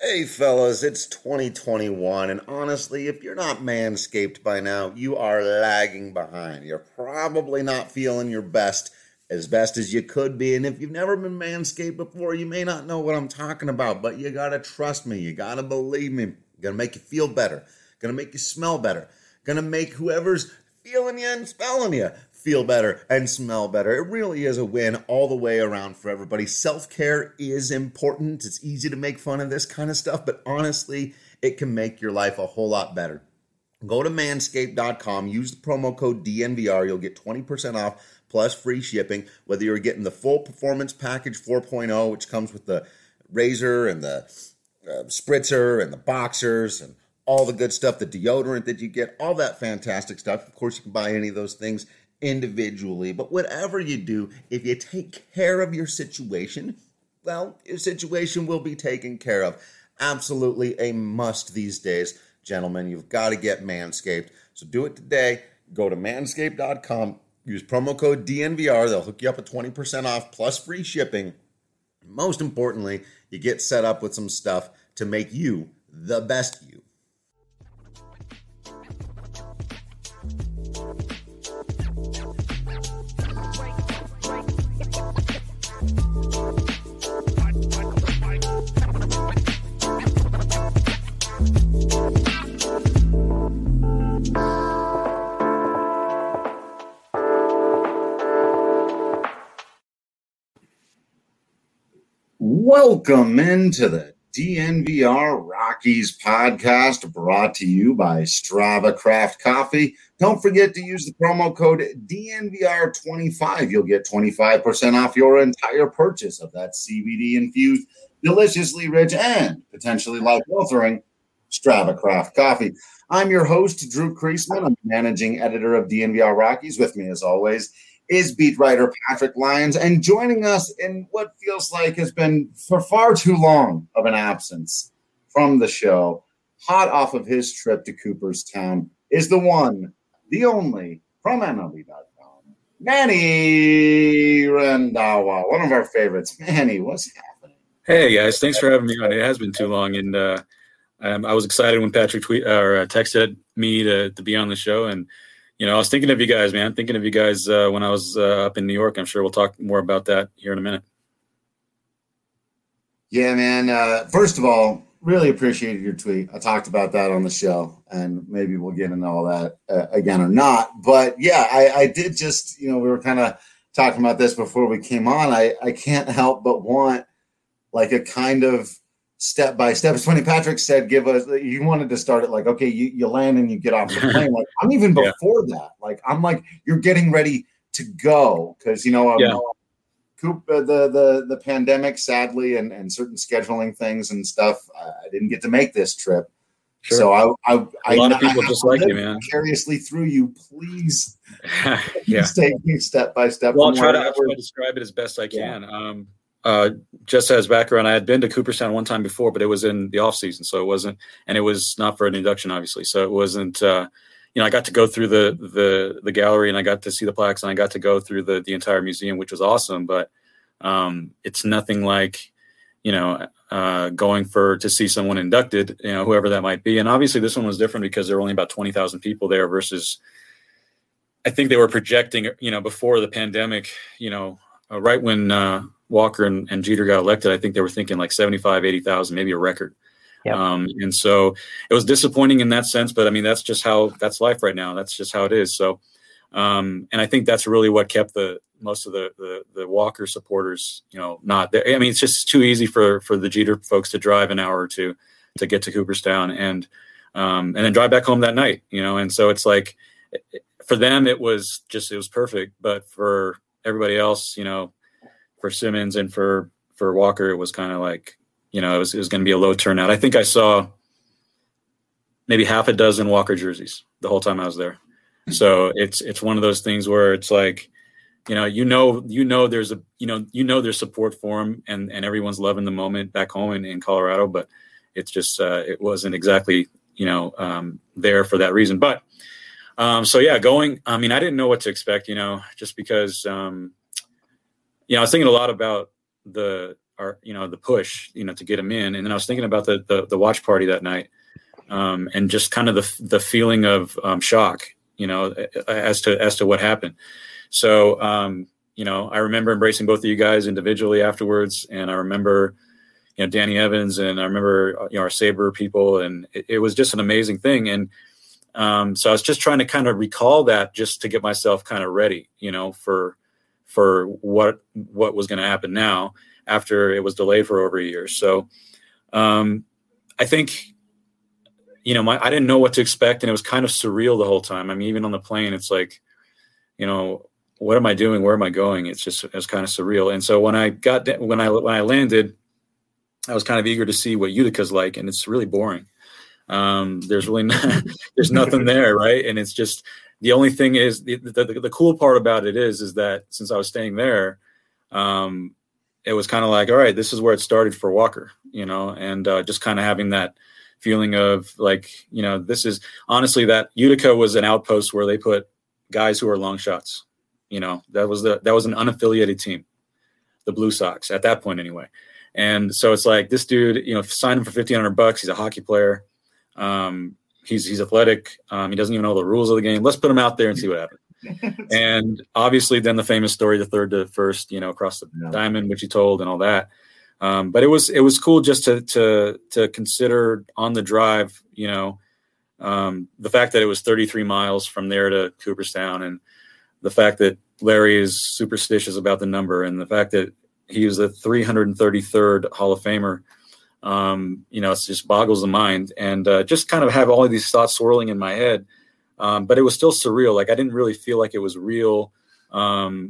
Hey fellas, it's 2021, and honestly, if you're not manscaped by now, you are lagging behind. You're probably not feeling your best as you could be, and if you've never been manscaped before, you may not know what I'm talking about, but you gotta trust me, you gotta believe me. Gonna make you feel better, gonna make you smell better, gonna make whoever's feeling you and smelling you feel better and smell better. It really is a win all the way around for everybody. Self-care is important. It's easy to make fun of this kind of stuff, but honestly, it can make your life a whole lot better. Go to manscaped.com, use the promo code DNVR. You'll get 20% off plus free shipping, whether you're getting the full performance package 4.0, which comes with the razor and the spritzer and the boxers and all the good stuff, the deodorant that you get, all that fantastic stuff. Of course, you can buy any of those things individually, but whatever you do, if you take care of your situation, well, your situation will be taken care of. Absolutely a must these days, gentlemen. You've got to get Manscaped. So do it today. Go to manscaped.com, use promo code DNVR. They'll hook you up at 20% off plus free shipping. Most importantly, you get set up with some stuff to make you the best you. Welcome into the DNVR Rockies podcast, brought to you by Strava Craft Coffee. Don't forget to use the promo code DNVR25. You'll get 25% off your entire purchase of that CBD-infused, deliciously rich, and potentially life-altering Strava Craft Coffee. I'm your host, Drew Kreisman. I'm the managing editor of DNVR Rockies. With me, as always, is beat writer Patrick Lyons, and joining us in what feels like has been for far too long of an absence from the show, hot off of his trip to Cooperstown, is the one, the only, from MLB.com, Manny Randhawa, one of our favorites. Manny, what's happening? Hey, guys. Thanks for having me on. It has been too long, and I was excited when Patrick texted me to be on the show, and I was thinking of you guys, man. Thinking of you guys when I was up in New York. I'm sure we'll talk more about that here in a minute. Yeah, man. First of all, really appreciated your tweet. I talked about that on the show, and maybe we'll get into all that again or not. But yeah, I did just, we were kind of talking about this before we came on. I can't help but want like a kind of step by step. It's funny. Patrick said, you wanted to start it like, okay, you land and you get off the plane. Like I'm even before that. Like, I'm like, you're getting ready to go. Cause the pandemic, sadly, and certain scheduling things and stuff, I didn't get to make this trip. Sure. So a lot of people just like you, man. Vicariously through you, please. Yeah. Take me step by step. Well, I'll try to describe it as best I can. Just as background, I had been to Cooperstown one time before, but it was in the off season. So it wasn't, and it was not for an induction, obviously. So it wasn't, I got to go through the gallery, and I got to see the plaques, and I got to go through the entire museum, which was awesome. But it's nothing like, going to see someone inducted, whoever that might be. And obviously this one was different because there were only about 20,000 people there versus, I think they were projecting, before the pandemic, right when Walker and Jeter got elected, I think they were thinking like 75, 80,000, maybe a record. Yep. And so it was disappointing in that sense, but I mean, that's life right now. That's just how it is. So, and I think that's really what kept most of the Walker supporters, not there. I mean, it's just too easy for the Jeter folks to drive an hour or two to get to Cooperstown and then drive back home that night, and so it's like, for them, it was perfect. But for everybody else, for Simmons and for Walker, it was kind of like, it was going to be a low turnout. I think I saw maybe half a dozen Walker jerseys the whole time I was there. So it's one of those things where it's like, there's there's support for him and everyone's loving the moment back home in Colorado, but it's just, it wasn't exactly, there for that reason. But going, I mean, I didn't know what to expect, just because, I was thinking a lot about the push, to get them in. And then I was thinking about the watch party that night, and just kind of the feeling of shock, as to what happened. So, I remember embracing both of you guys individually afterwards. And I remember, Danny Evans, and I remember, our Sabre people, and it was just an amazing thing. And so I was just trying to kind of recall that, just to get myself kind of ready, for what was going to happen now after it was delayed for over a year. So I think, I didn't know what to expect, and it was kind of surreal the whole time. I mean, even on the plane, it's like, what am I doing? Where am I going? It was kind of surreal. And so when I landed, I was kind of eager to see what Utica's like, and it's really boring. There's really there's nothing there, right? And it's just, the only thing is, the cool part about it is that since I was staying there, it was kind of like, all right, this is where it started for Walker, and just kind of having that feeling of like, this is honestly, that Utica was an outpost where they put guys who are long shots. That was an unaffiliated team, the Blue Sox at that point anyway. And so it's like, this dude, signed him for $1,500. He's a hockey player. He's athletic. He doesn't even know the rules of the game. Let's put him out there and see what happens. And obviously then the famous story, the third to first, across the diamond, which he told, and all that. But it was cool just to consider on the drive, the fact that it was 33 miles from there to Cooperstown, and the fact that Larry is superstitious about the number, and the fact that he was the 333rd Hall of Famer. It just boggles the mind, and just kind of have all of these thoughts swirling in my head. But it was still surreal. Like, I didn't really feel like it was real. I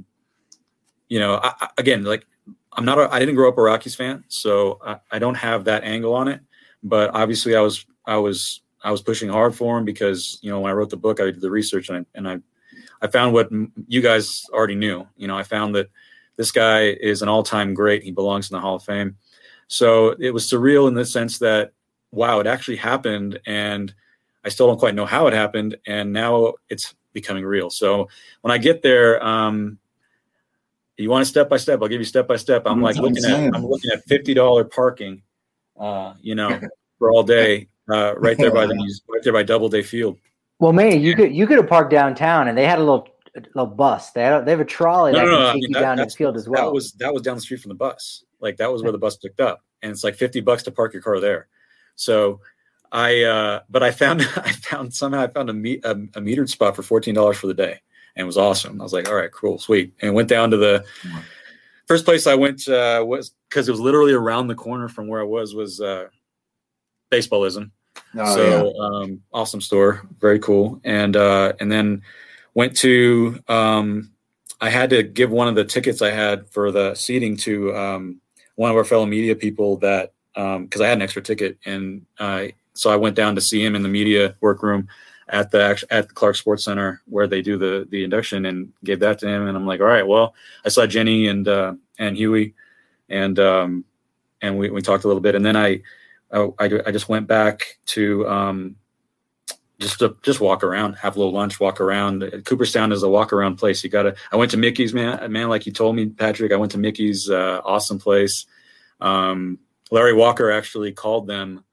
didn't grow up a Rockies fan, so I don't have that angle on it. But obviously I was pushing hard for him, because, when I wrote the book, I did the research, and I found what you guys already knew. I found that this guy is an all-time great. He belongs in the Hall of Fame. So it was surreal in the sense that, wow, it actually happened, and I still don't quite know how it happened, and now it's becoming real. So when I get there, you want a step by step? I'll give you step by step. I'm looking at $50 parking, for all day, right there by Doubleday Field. Well, man, you could have parked downtown, and they had a little bus. They have a trolley that can take you down to the field as well. That was down the street from the bus. Like, that was where the bus picked up, and it's like $50 to park your car there. So I found a metered spot for $14 for the day, and it was awesome. I was like, all right, cool, sweet. And went down to the first place I went, was, because it was literally around the corner from where I was Baseballism. Awesome store, very cool. And then went to, I had to give one of the tickets I had for the seating to one of our fellow media people, that because I had an extra ticket, and so I went down to see him in the media workroom at the Clark Sports Center, where they do the induction, and gave that to him. And I'm like, all right, well, I saw Jenny and Huey, and we talked a little bit, and then I just went back to just walk around, have a little lunch, walk around. Cooperstown is a walk around place. I went to Mickey's, man, like you told me, Patrick. I went to Mickey's, awesome place. Larry Walker actually called the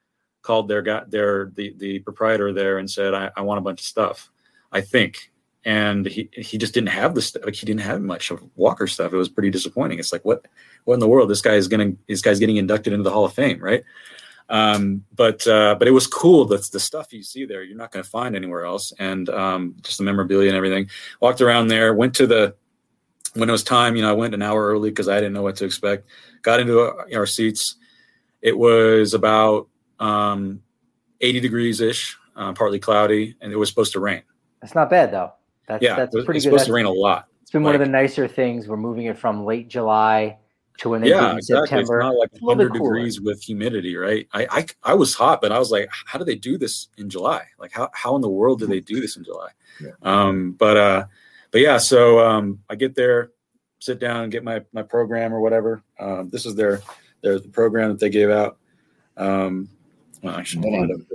proprietor there and said, I want a bunch of stuff, I think. And he just didn't have the stuff. Like, he didn't have much of Walker stuff. It was pretty disappointing. It's like, what in the world? This guy's getting inducted into the Hall of Fame, right? But it was cool. That's the stuff you see there, you're not going to find anywhere else. And just the memorabilia and everything. Walked around there, when it was time, I went an hour early because I didn't know what to expect. Got into our seats. It was about 80 degrees ish, partly cloudy, and it was supposed to rain. That's not bad though. That's pretty good. It's supposed to rain a lot. It's been one of the nicer things. We're moving it from late July to when they did in September. It's not like 100 degrees with humidity, right? I was hot, but I was like, how do they do this in July? Like, how in the world do they do this in July? Yeah. But yeah, so I get there, sit down and get my program or whatever. This is their program that they gave out. Well, I should end up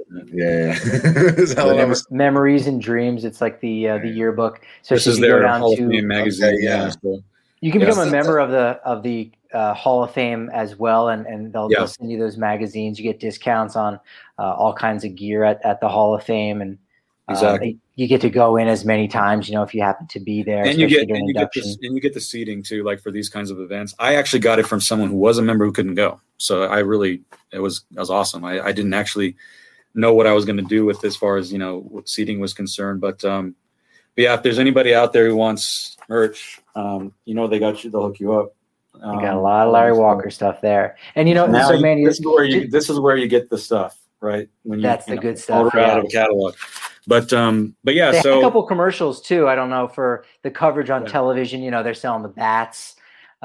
Memories and Dreams. It's like the yearbook. So this is their Hall of Fame magazine. You can become a member of the Hall of Fame as well, and they'll send you those magazines. You get discounts on all kinds of gear at the Hall of Fame, and exactly. You get to go in as many times, if you happen to be there. And you get the seating too, like for these kinds of events. I actually got it from someone who was a member who couldn't go. So it was awesome. I didn't actually know what I was going to do with as far as, what seating was concerned. But yeah, if there's anybody out there who wants merch, they got you, they'll hook you up. You got a lot of Larry Walker stuff there. And, this is where you get the stuff, right? That's the good stuff. Out of a catalog. But yeah, they had a couple commercials too. I don't know, for the coverage on television. They're selling the bats,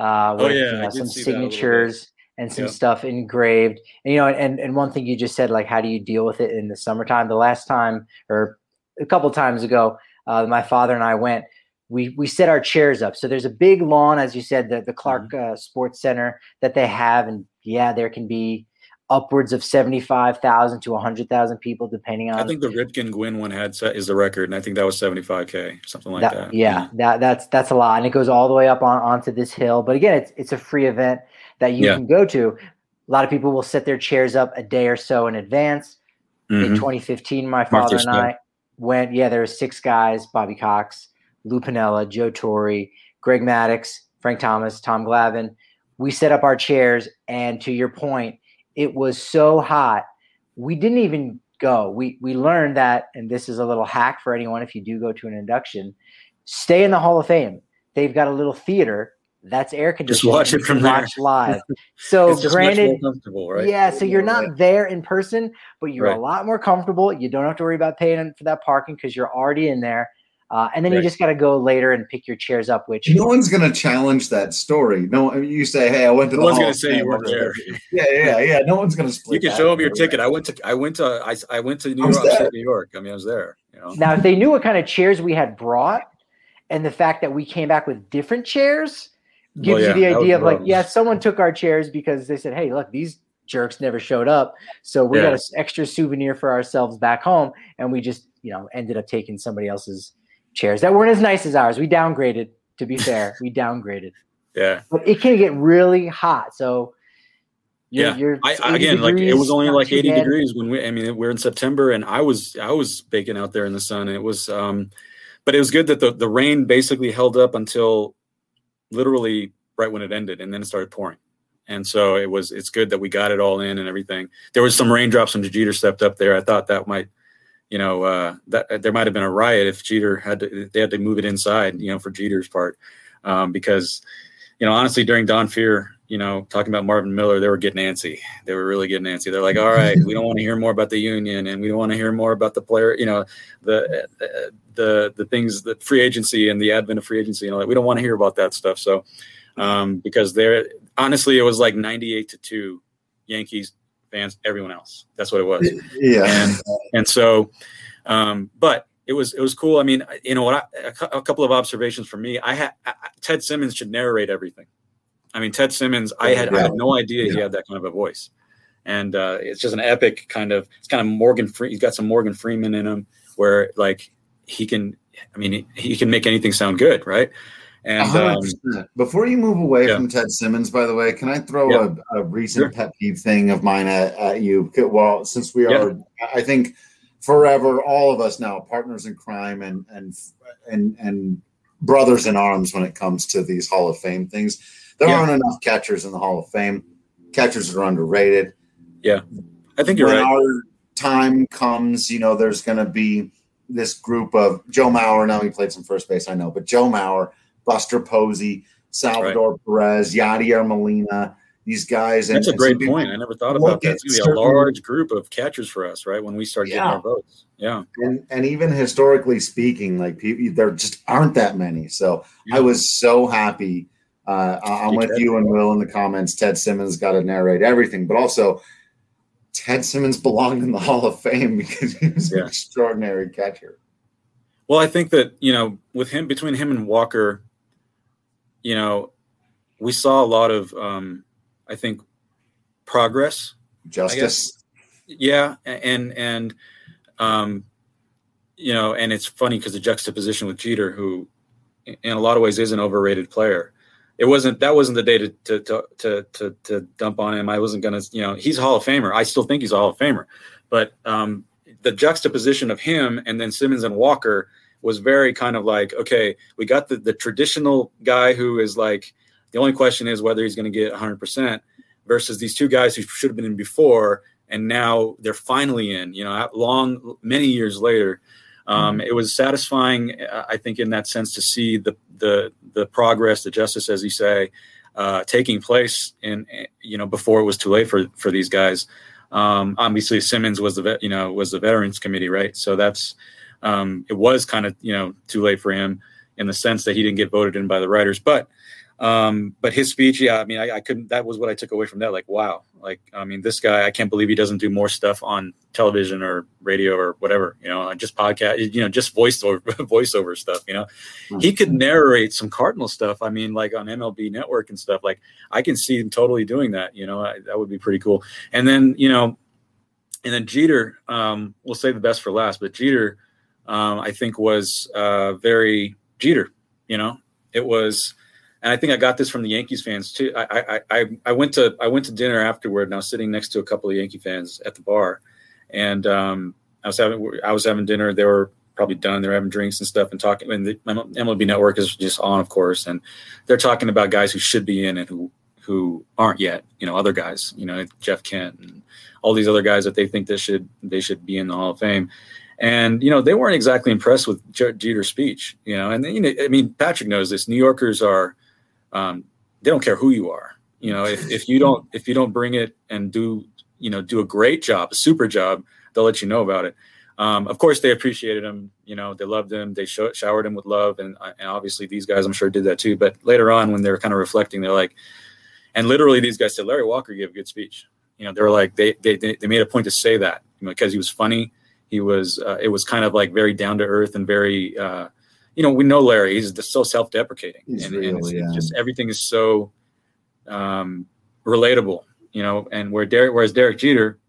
with some signatures and some stuff engraved. And and one thing you just said, like, how do you deal with it in the summertime? The last time, or a couple times ago, my father and I went. We set our chairs up. So there's a big lawn, as you said, the Clark Sports Center that they have, and there can be upwards of 75,000 to 100,000 people, depending on. I think the Ripken Gwynn one is the record, and I think that was 75K, something like that. Yeah, that's a lot, and it goes all the way up onto this hill. But again, it's a free event that you can go to. A lot of people will set their chairs up a day or so in advance. In 2015, my father and I went. Yeah, there were 6 guys: Bobby Cox, Lou Piniella, Joe Torre, Greg Maddux, Frank Thomas, Tom Glavine. We set up our chairs, and to your point, it was so hot, we didn't even go. We learned that, and this is a little hack for anyone if you do go to an induction, stay in the Hall of Fame. They've got a little theater that's air conditioned. Just watch it from there. Watch live. So it's just granted, much more comfortable, right? Yeah, so you're not there in person, but you're a lot more comfortable. You don't have to worry about paying for that parking because you're already in there. And then you just got to go later and pick your chairs up, which no one's going to challenge that story. No, you say, "Hey, I went to the." No one's going to say you weren't there. Yeah. No one's going to split. You can show them your ticket. I went to New York. I mean, I was there. Now, if they knew what kind of chairs we had brought, and the fact that we came back with different chairs, gives you the idea of someone took our chairs because they said, "Hey, look, these jerks never showed up, so we got an extra souvenir for ourselves back home," and we just ended up taking somebody else's chairs that weren't as nice as ours. We downgraded, to be fair. Yeah. But it can get really hot. So it was only like 80 degrees when we're in September, and I was baking out there in the sun. It was but it was good that the rain basically held up until literally right when it ended, and then it started pouring. And so it's good that we got it all in and everything. There was some raindrops when Jeter stepped up there. I thought that might that there might have been a riot if Jeter they had to move it inside, for Jeter's part. Because, honestly, during Don Fear, talking about Marvin Miller, they were getting antsy. They were really getting antsy. They're like, all right, we don't want to hear more about the union, and we don't want to hear more about the player, the things, the free agency and the advent of free agency and all that. We don't want to hear about that stuff. So, because honestly, it was like 98-2 Yankees fans, everyone else. That's what it was. Yeah. And so, but it was cool. I mean, a couple of observations for me. Ted Simmons should narrate everything. I mean, Ted Simmons, I had no idea he had that kind of a voice. And it's just an epic kind of Morgan Freeman. He's got some Morgan Freeman in him where like he can make anything sound good. Right. And before you move away from Ted Simmons, by the way, can I throw a recent pet peeve thing of mine at you? Well, since we are, I think forever, all of us now, partners in crime and brothers in arms when it comes to these Hall of Fame things. There aren't enough catchers in the Hall of Fame. Catchers are underrated. Yeah, I think you're right. When our time comes, there's going to be this group of Joe Mauer. Now he played some first base, I know, but Joe Mauer, Buster Posey, Salvador Perez, Yadier Molina, these guys. That's a great point. I never thought about that. It's going to be a large group of catchers for us, right, when we start getting our votes. Yeah. And even historically speaking, like there just aren't that many. So I was so happy. I'm with you and Will in the comments. Ted Simmons got to narrate everything, but also Ted Simmons belonged in the Hall of Fame because he was an extraordinary catcher. Well, I think that, between him and Walker, we saw a lot of, I think, progress. Justice. Yeah. And it's funny because the juxtaposition with Jeter, who in a lot of ways is an overrated player. that wasn't the day to dump on him. I wasn't going to, he's a Hall of Famer. I still think he's a Hall of Famer, but the juxtaposition of him and then Simmons and Walker was very kind of like, okay, we got the traditional guy who is like, the only question is whether he's going to get 100% versus these two guys who should have been in before. And now they're finally in, many years later. It was satisfying, I think, in that sense, to see the progress, the justice, as you say, taking place before it was too late for these guys. Obviously, Simmons was the Veterans Committee, right? So that's it was kind of too late for him in the sense that he didn't get voted in by the writers, but his speech, I couldn't. That was what I took away from that. Like, wow, this guy, I can't believe he doesn't do more stuff on television or radio or whatever, just podcast, just voiceover stuff. He could narrate some Cardinal stuff. Like on MLB Network and stuff. Like, I can see him totally doing that. That would be pretty cool. And then Jeter, we'll save the best for last, but Jeter, I think was very Jeter. It was. And I think I got this from the Yankees fans too. I went to dinner afterward, and I was sitting next to a couple of Yankee fans at the bar, and I was having dinner. They were probably done. They were having drinks and stuff and talking. And the MLB Network is just on, of course, and they're talking about guys who should be in and who aren't yet. Other guys, Jeff Kent and all these other guys that they think they should be in the Hall of Fame. And, they weren't exactly impressed with Jeter's speech, and Patrick knows this. New Yorkers are. They don't care who you are. If you don't bring it and do a great job, a super job, they'll let you know about it. Of course, they appreciated him. They loved him. They showered him with love, and obviously these guys, I'm sure, did that too. But later on, when they were kind of reflecting, they're like, and literally these guys said, Larry Walker gave a good speech. They were like, they made a point to say that because he was funny. He was. It was kind of like very down to earth and very. We know Larry. He's just so self-deprecating, and it's just everything is so relatable, And whereas Derek Jeter,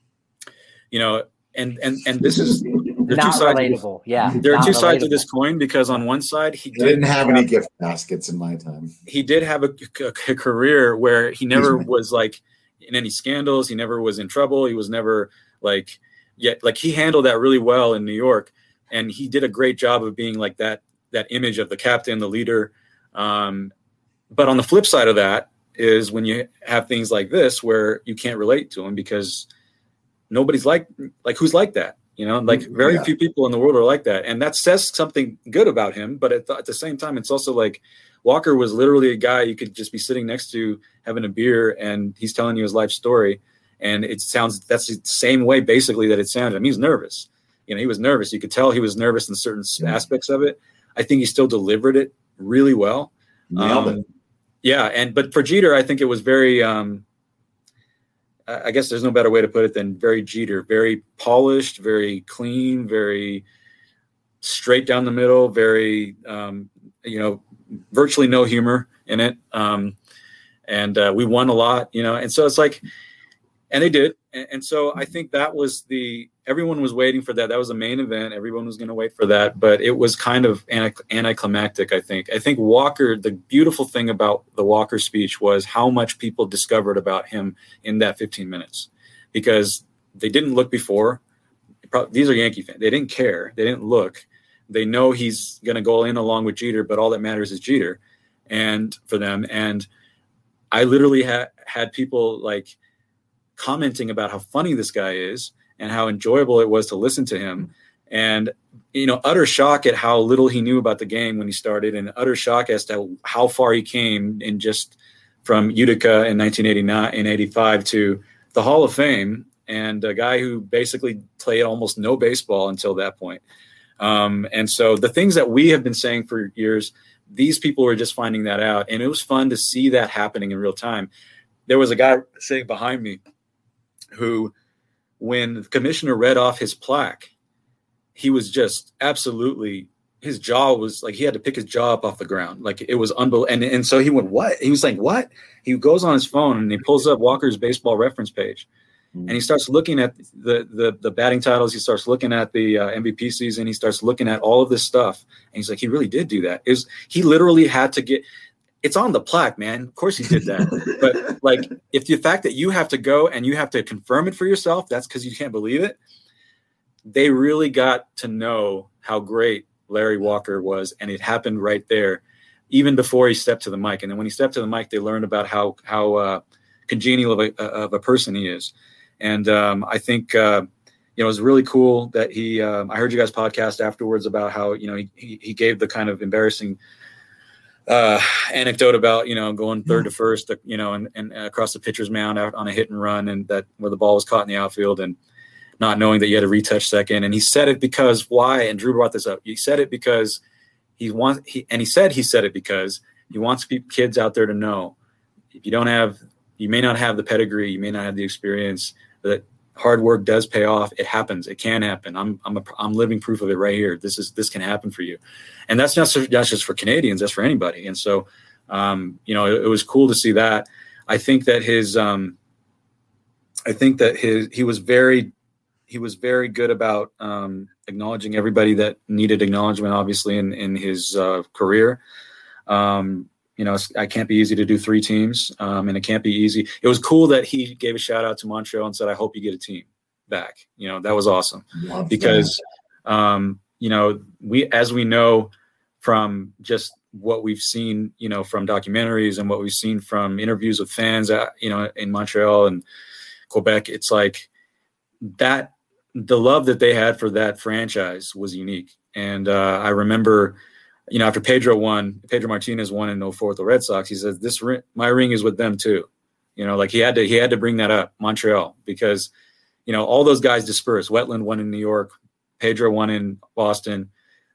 and this is not relatable. There are two sides of this coin because on one side he didn't have any gift baskets in my time. He did have a career where he never was like in any scandals. He never was in trouble. He was never he handled that really well in New York. And he did a great job of being like that image of the captain, the leader. But on the flip side of that is when you have things like this where you can't relate to him because nobody's like who's like that, very few people in the world are like that. And that says something good about him. But at the same time, it's also like Walker was literally a guy you could just be sitting next to having a beer and he's telling you his life story. And that's the same way basically that it sounded. He's nervous. He was nervous. You could tell he was nervous in certain aspects of it. I think he still delivered it really well. Nailed it. But for Jeter, I think it was very, I guess there's no better way to put it than very Jeter, very polished, very clean, very straight down the middle, very, virtually no humor in it. And we won a lot, and so it's like, and they did. And so I think that was everyone was waiting for that. That was the main event. Everyone was going to wait for that, but it was kind of anticlimactic, I think. I think Walker, the beautiful thing about the Walker speech was how much people discovered about him in that 15 minutes because they didn't look before. These are Yankee fans. They didn't care. They didn't look. They know he's going to go in along with Jeter, but all that matters is Jeter and for them. And I literally had people like commenting about how funny this guy is and how enjoyable it was to listen to him. And, utter shock at how little he knew about the game when he started and utter shock as to how far he came in just from Utica in 1989 and 85 to the Hall of Fame and a guy who basically played almost no baseball until that point. And so the things that we have been saying for years, these people were just finding that out. And it was fun to see that happening in real time. There was a guy sitting behind me who, when the commissioner read off his plaque, he was just absolutely, his jaw was like, he had to pick his jaw up off the ground. Like it was unbelievable. And so he went, what? He was like, what? He goes on his phone and he pulls up Walker's baseball reference page and he starts looking at the batting titles. He starts looking at the MVP season. He starts looking at all of this stuff. And he's like, he really did do that. He literally had to it's on the plaque, man. Of course he did that. But like, if the fact that you have to go and you have to confirm it for yourself, that's because you can't believe it. They really got to know how great Larry Walker was. And it happened right there, even before he stepped to the mic. And then when he stepped to the mic, they learned about how congenial of a person he is. And I think, it was really cool that I heard you guys podcast afterwards about how, he gave the kind of embarrassing anecdote about, going third to first, and across the pitcher's mound out on a hit and run, and that where the ball was caught in the outfield and not knowing that you had to retouch second. And he said it because why? And Drew brought this up. He said it because he said it because he wants kids out there to know, if you may not have the pedigree, you may not have the experience, that hard work does pay off. It happens. It can happen. I'm living proof of it right here. This can happen for you. And that's not just for Canadians, that's for anybody. And so, it was cool to see that. I think that he was very good about acknowledging everybody that needed acknowledgement, obviously in his career. It can't be easy to do 3 teams, and it can't be easy. It was cool that he gave a shout out to Montreal and said, "I hope you get a team back." That was awesome. Love because, as we know from just what we've seen, from documentaries and what we've seen from interviews with fans, in Montreal and Quebec, it's like that the love that they had for that franchise was unique. And I remember, after Pedro Martinez won in 2004 with the Red Sox, he said, my ring is with them too. Like he had to bring that up, Montreal, because, all those guys dispersed. Wetland won in New York, Pedro won in Boston.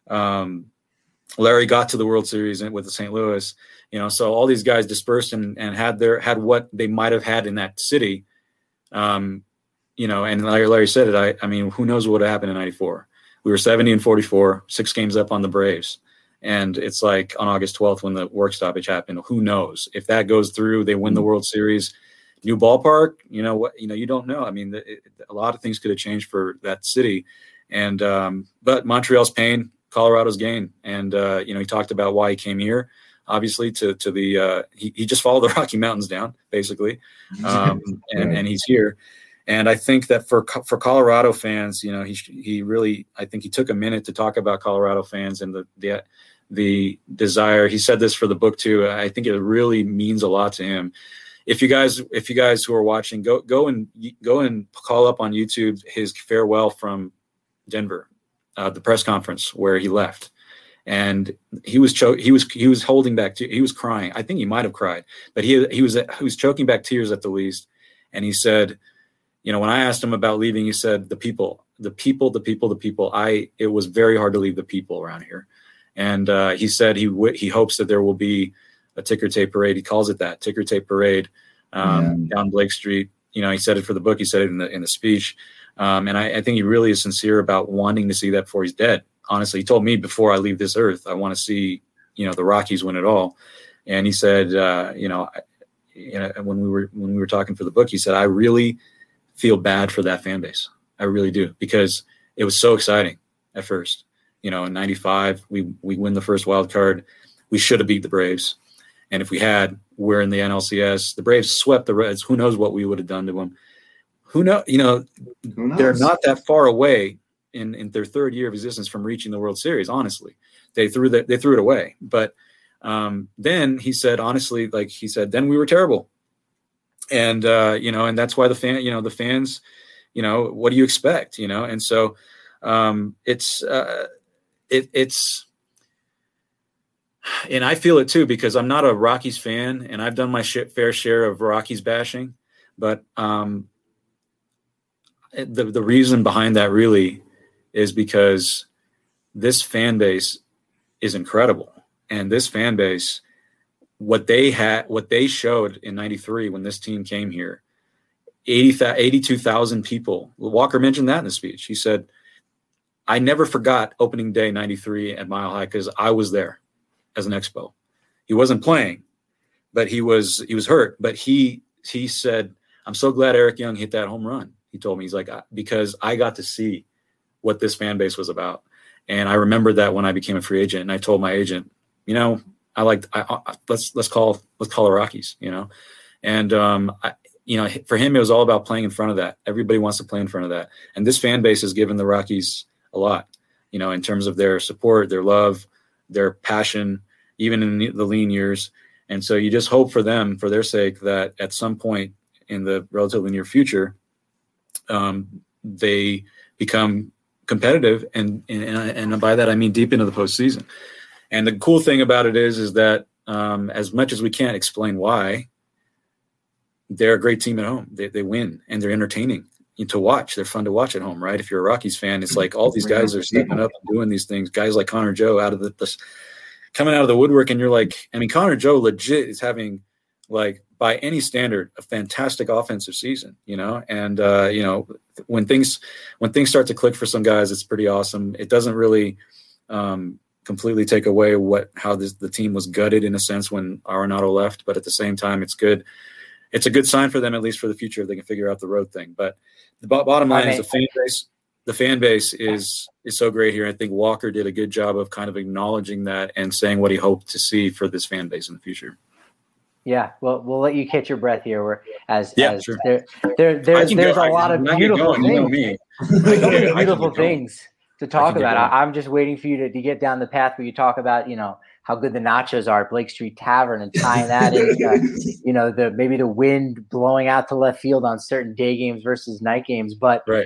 Larry got to the World Series with the St. Louis, so all these guys dispersed and had what they might have had in that city. And Larry said it. I mean, who knows what would have happened in 94? We were 70-44, 6 games up on the Braves. And it's like on August 12th when the work stoppage happened, who knows if that goes through, they win the World Series, new ballpark, you don't know. I mean, a lot of things could have changed for that city. And, but Montreal's pain, Colorado's gain. And, he talked about why he came here, obviously to the, he just followed the Rocky Mountains down basically. And he's here. And I think that for Colorado fans, he really, I think he took a minute to talk about Colorado fans and the desire. He said this for the book too. I think it really means a lot to him. If you guys who are watching, go and call up on YouTube his farewell from Denver, the press conference where he left, and he was holding back. He was crying. I think he might have cried, but he was choking back tears at the least. And he said, when I asked him about leaving, he said, the people. It was very hard to leave the people around here. And he said he hopes that there will be a ticker tape parade. He calls it that, ticker tape parade down Blake Street. He said it for the book. He said it in the speech. And I think he really is sincere about wanting to see that before he's dead. Honestly, he told me before I leave this earth, I want to see, the Rockies win it all. And he said, when we were talking for the book, he said, I really feel bad for that fan base. I really do, because it was so exciting at first. In 95, we win the first wild card. We should have beat the Braves. And if we had, we're in the NLCS. The Braves swept the Reds. Who knows what we would have done to them? Who knows? They're not that far away in their third year of existence from reaching the World Series. Honestly, they threw it away. But then he said, honestly, then we were terrible. And, and that's why the fans, what do you expect, And so it's, and I feel it too, because I'm not a Rockies fan and I've done my fair share of Rockies bashing, but the reason behind that really is because this fan base is incredible. And this fan base, what they showed in 93 when this team came here, 82,000 people. Walker mentioned that in the speech. He said, I never forgot opening day 93 at Mile High because I was there as an Expo. He wasn't playing, but he was hurt. But he said, I'm so glad Eric Young hit that home run. He told me, he's like, because I got to see what this fan base was about. And I remembered that when I became a free agent, and I told my agent, let's call the Rockies, and for him, it was all about playing in front of that. Everybody wants to play in front of that. And this fan base has given the Rockies a lot, in terms of their support, their love, their passion, even in the lean years. And so you just hope for them, for their sake, that at some point in the relatively near future, they become competitive. And by that, I mean deep into the postseason. And the cool thing about it is that as much as we can't explain why, they're a great team at home. They win, and they're entertaining to watch. They're fun to watch at home, right? If you're a Rockies fan, it's like all these guys are stepping up and doing these things. Guys like Connor Joe out of coming out of the woodwork, and you're like, Connor Joe legit is having, like, by any standard, a fantastic offensive season, and when things start to click for some guys, it's pretty awesome. It doesn't really completely take away how the team was gutted in a sense when Arenado left, but at the same time, it's good. It's a good sign for them, at least for the future, if they can figure out the road thing. But the bottom line is the fan base is so great here. I think Walker did a good job of kind of acknowledging that and saying what he hoped to see for this fan base in the future. Yeah, well, we'll let you catch your breath here. Sure. There's a lot of beautiful things. Beautiful things to talk about. I'm just waiting for you to get down the path where you talk about, how good the nachos are at Blake Street Tavern, and tying that into, maybe the wind blowing out to left field on certain day games versus night games. But right.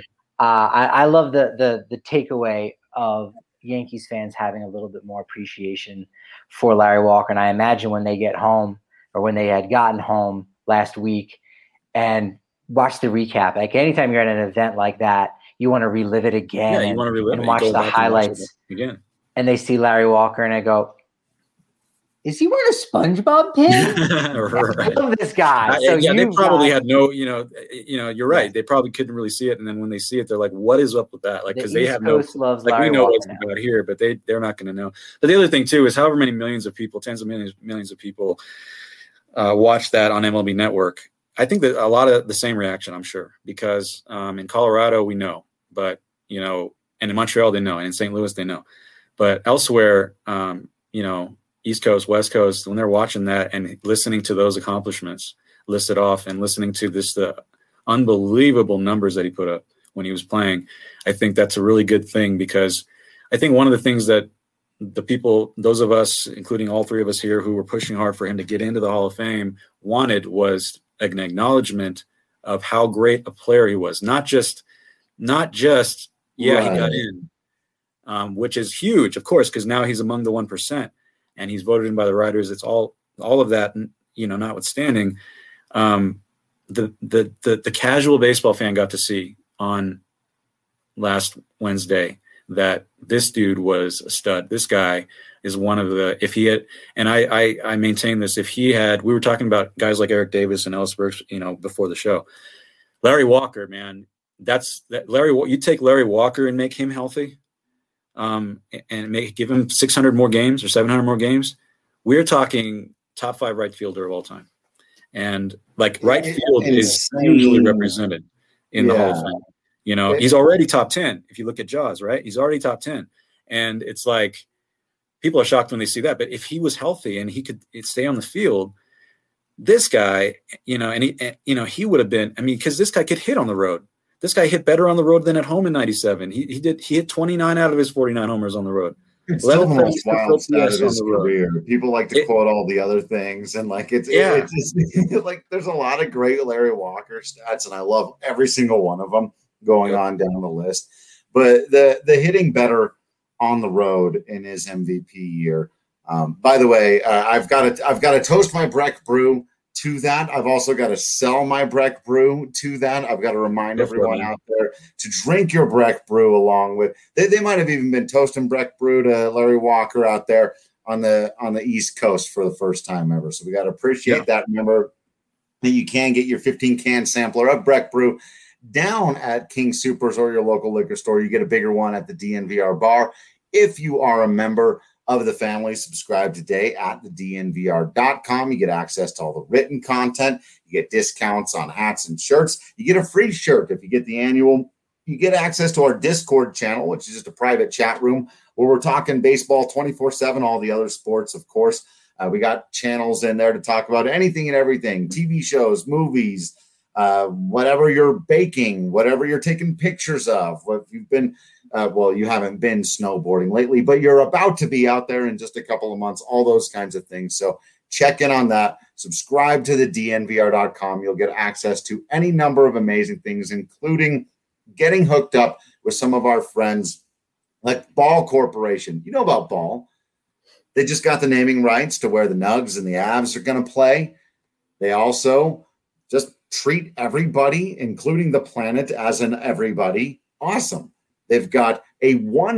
I love the takeaway of Yankees fans having a little bit more appreciation for Larry Walker. And I imagine when they get home, or when they had gotten home last week and watch the recap, like anytime you're at an event like that, you want to relive it again. Yeah, you want to relive and watch the highlights again. And they see Larry Walker and I go, is he wearing a SpongeBob pin? Right. I love this guy. They probably had no, you're right. They probably couldn't really see it. And then when they see it, they're like, what is up with that? Like, because they have no, like, we know what's about here, but they're not going to know. But the other thing too, is however many millions of people, tens of millions of people watch that on MLB Network. I think that a lot of the same reaction, I'm sure, because in Colorado, we know, but, and in Montreal, they know, and in St. Louis, they know, but elsewhere, East Coast, West Coast, when they're watching that and listening to those accomplishments listed off and listening to the unbelievable numbers that he put up when he was playing, I think that's a really good thing, because I think one of the things that the people, those of us, including all three of us here who were pushing hard for him to get into the Hall of Fame, wanted was an acknowledgement of how great a player he was. Not just right. He got in, which is huge, of course, because now he's among the 1%. And he's voted in by the writers. It's all of that, notwithstanding, the casual baseball fan got to see on last Wednesday that this dude was a stud. This guy is one of the, if he had, and I maintain this, if he had, we were talking about guys like Eric Davis and Ellis Burks, before the show. Larry Walker, man, you take Larry Walker and make him healthy. And give him 600 more games or 700 more games, we're talking top 5 right fielder of all time. And like right field is usually represented in the Hall of Fame. He's already top 10. If you look at Jaws, right? He's already top 10. And it's like, people are shocked when they see that. But if he was healthy and he could stay on the field, this guy, he would have been, because this guy could hit on the road. This guy hit better on the road than at home in '97. He hit 29 out of his 49 homers on the road. It's still the most wild stat of his career. People like to quote all the other things, and like it's just, like there's a lot of great Larry Walker stats, and I love every single one of them going on down the list. But the hitting better on the road in his MVP year. By the way, I've got to toast my Breck Brew to that. I've also got to sell my Breck Brew to that. I've got to remind everyone out there to drink your Breck Brew along with. They might have even been toasting Breck Brew to Larry Walker out there on the East Coast for the first time ever. So we got to appreciate that. Remember that you can get your 15-can sampler of Breck Brew down at King Soopers or your local liquor store. You get a bigger one at the DNVR bar. If you are a member of the family, subscribe today at thednvr.com. You get access to all the written content. You get discounts on hats and shirts. You get a free shirt if you get the annual. You get access to our Discord channel, which is just a private chat room where we're talking baseball 24/7, all the other sports, of course. We got channels in there to talk about anything and everything, TV shows, movies, whatever you're baking, whatever you're taking pictures of, what you've been, you haven't been snowboarding lately, but you're about to be out there in just a couple of months, all those kinds of things. So check in on that. Subscribe to the DNVR.com. You'll get access to any number of amazing things, including getting hooked up with some of our friends like Ball Corporation. You know about Ball. They just got the naming rights to where the Nugs and the Avs are going to play. They also just treat everybody, including the planet, as an everybody. Awesome. They've got a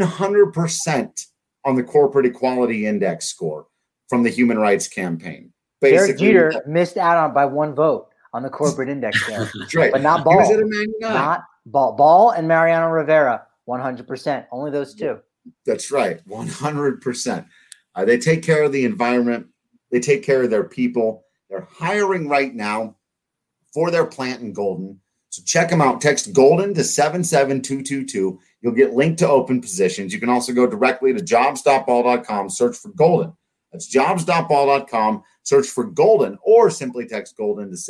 100% on the Corporate Equality Index score from the Human Rights Campaign. Derek Jeter missed out on by one vote on the corporate index there. That's right. But not Ball. Not Ball. Ball and Mariano Rivera, 100%. Only those two. That's right. 100%. They take care of the environment. They take care of their people. They're hiring right now for their plant in Golden. So check them out. Text Golden to 77222. You'll get linked to open positions. You can also go directly to jobs.ball.com, search for Golden. That's jobs.ball.com, search for Golden, or simply text Golden to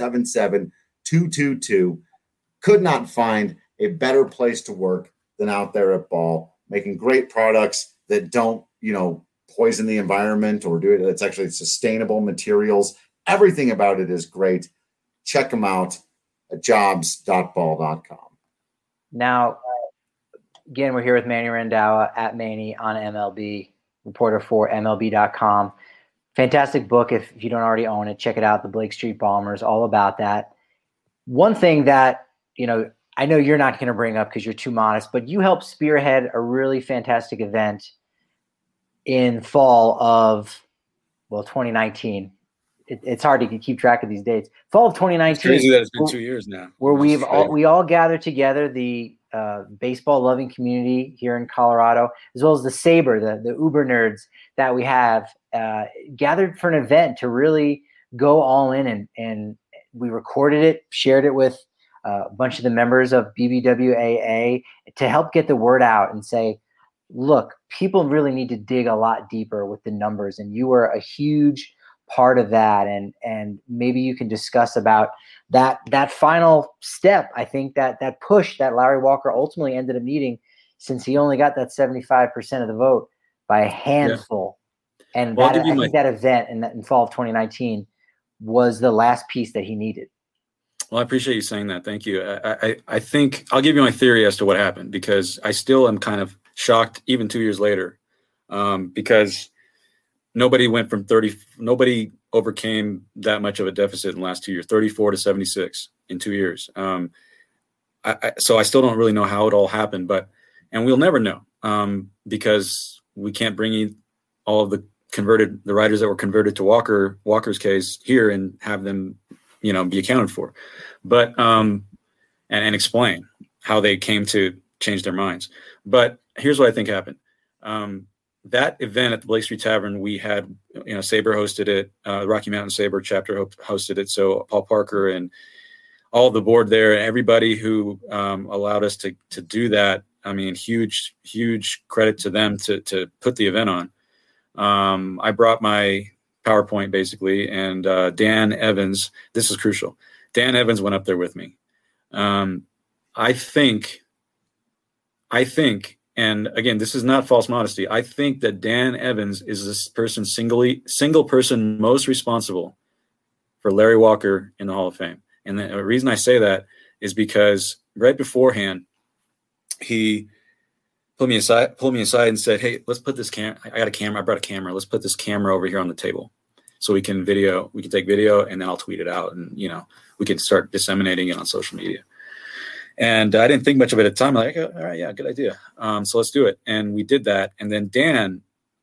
77222. Could not find a better place to work than out there at Ball, making great products that don't, poison the environment or do it. It's actually sustainable materials. Everything about it is great. Check them out at jobs.ball.com. Now, again, we're here with Manny Randhawa at Manny on MLB, reporter for MLB.com. Fantastic book. If you don't already own it, check it out. The Blake Street Bombers, all about that. One thing that, I know you're not going to bring up because you're too modest, but you helped spearhead a really fantastic event in fall of, 2019. It's hard to keep track of these dates. Fall of 2019. It's crazy that it's been 2 years now. Where we all gathered together, the baseball loving community here in Colorado, as well as the Saber, the Uber nerds that we have, gathered for an event to really go all in, and we recorded it, shared it with a bunch of the members of BBWAA to help get the word out and say, look, people really need to dig a lot deeper with the numbers, and you were a huge part of that, and maybe you can discuss about that final step. I think that push that Larry Walker ultimately ended up needing, since he only got that 75% of the vote by a handful. Yeah. And I think that event in fall of 2019 was the last piece that he needed. Well, I appreciate you saying that. Thank you. I think I'll give you my theory as to what happened, because I still am kind of shocked even 2 years later, because nobody overcame that much of a deficit in the last 2 years, 34 to 76 in 2 years. So I still don't really know how it all happened, and we'll never know, because we can't bring in all of the riders that were converted to Walker's case here and have them, be accounted for, but, and explain how they came to change their minds. But here's what I think happened. That event at the Blake Street Tavern, we had, Saber hosted it, Rocky Mountain Saber chapter hosted it. So Paul Parker and all the board there, and everybody who allowed us to do that. I mean, huge credit to them to put the event on. I brought my PowerPoint basically, and Dan Evans, this is crucial. Dan Evans went up there with me. I think, and again, this is not false modesty, I think that Dan Evans is this single person most responsible for Larry Walker in the Hall of Fame. And the reason I say that is because right beforehand, he pulled me aside and said, "Hey, let's put this camera. I got a camera. I brought a camera. Let's put this camera over here on the table so we can take video, and then I'll tweet it out, and we can start disseminating it on social media." And I didn't think much of it at the time. I'm like, all right, yeah, good idea. So let's do it. And we did that. And then Dan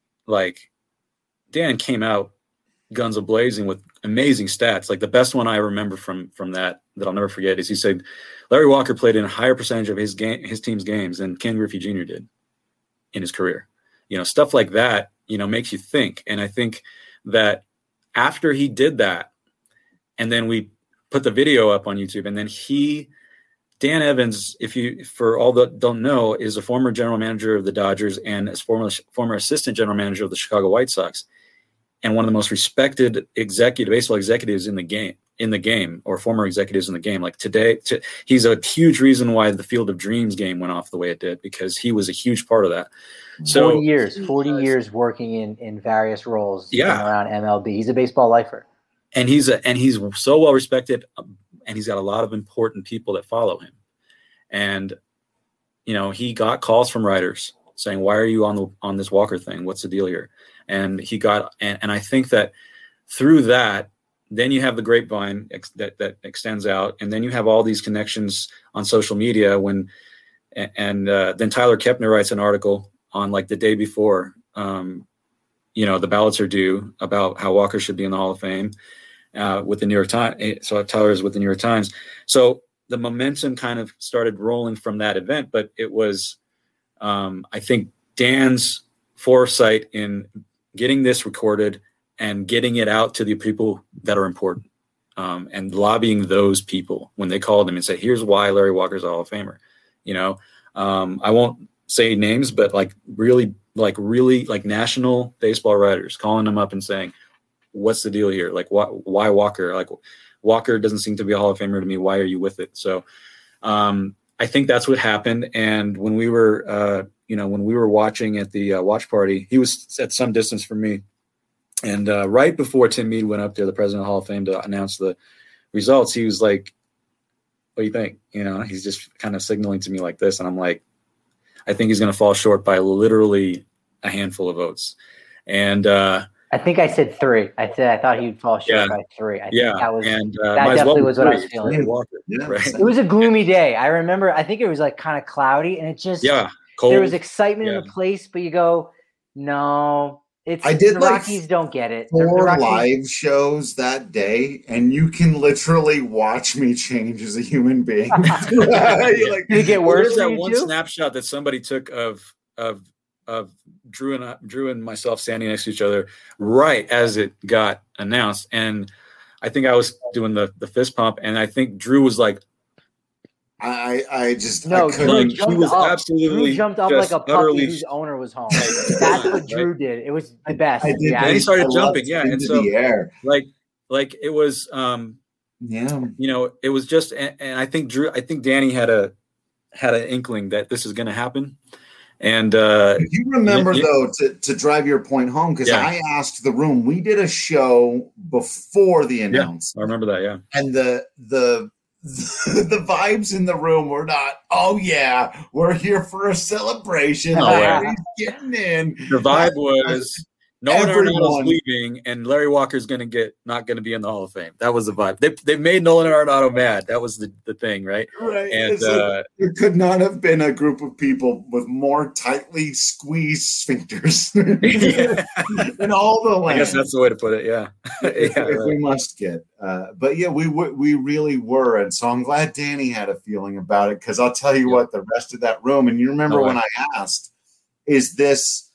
came out guns a-blazing with amazing stats. Like the best one I remember from that I'll never forget is he said Larry Walker played in a higher percentage of his team's games than Ken Griffey Jr. did in his career. Stuff like that, makes you think. And I think that after he did that, and then we put the video up on YouTube, and then Dan Evans, for all that don't know, is a former general manager of the Dodgers and is former assistant general manager of the Chicago White Sox. and one of the most respected baseball executives in the game, or former executives in the game. Like today, he's a huge reason why the Field of Dreams game went off the way it did, because he was a huge part of that. So 40 years working in various roles around MLB. He's a baseball lifer. And he's so well respected, and he's got a lot of important people that follow him. And, he got calls from writers saying, why are you on this Walker thing? What's the deal here? And he got, and I think that through that, then you have the grapevine that extends out, and then you have all these connections on social media then Tyler Kepner writes an article on like the day before, the ballots are due, about how Walker should be in the Hall of Fame with the New York Times. So Tyler is with the New York Times. So the momentum kind of started rolling from that event, but it was, I think, Dan's foresight in getting this recorded and getting it out to the people that are important, and lobbying those people when they called him and said, here's why Larry Walker's a Hall of Famer. I won't say names, but really national baseball writers calling them up and saying, what's the deal here? Like, why Walker? Like, Walker doesn't seem to be a Hall of Famer to me. Why are you with it? So I think that's what happened. And when we were, watching at the watch party, he was at some distance from me. And right before Tim Mead went up there, the president of the Hall of Fame, to announce the results, he was like, what do you think? He's just kind of signaling to me like this. And I'm like, I think he's going to fall short by literally a handful of votes. And I think I said 3. I thought he'd fall short by 3. I think that definitely was what I was feeling. Right? It was a gloomy day. I remember, I think it was like kind of cloudy, and it just, cold. There was excitement in the place, but you go, no. The Rockies don't get it. 4 live shows that day, and you can literally watch me change as a human being. Did it get worse? There's that one snapshot that somebody took of Drew and myself standing next to each other right as it got announced, and I think I was doing the fist pump, and I think Drew was like, I just no. Drew jumped up like a puppy whose owner was home. That's what Drew did. It was the best. And he started jumping, and so the air. like it was, it was just, and I think Danny had an inkling that this is going to happen. And you remember though, to drive your point home, because I asked the room. We did a show before the announcement. I remember that. Yeah, and the vibes in the room were not, oh yeah, we're here for a celebration. Larry's getting in. The vibe was Nolan Arenado's leaving, and Larry Walker's not going to be in the Hall of Fame. That was the vibe. They made Nolan Arenado mad. That was the thing, right? Right. And there could not have been a group of people with more tightly squeezed sphincters in all the land. I guess that's the way to put it. Yeah. We must get. But yeah, we really were, and so I'm glad Danny had a feeling about it, because I'll tell you what, the rest of that room, and you remember when I asked, is this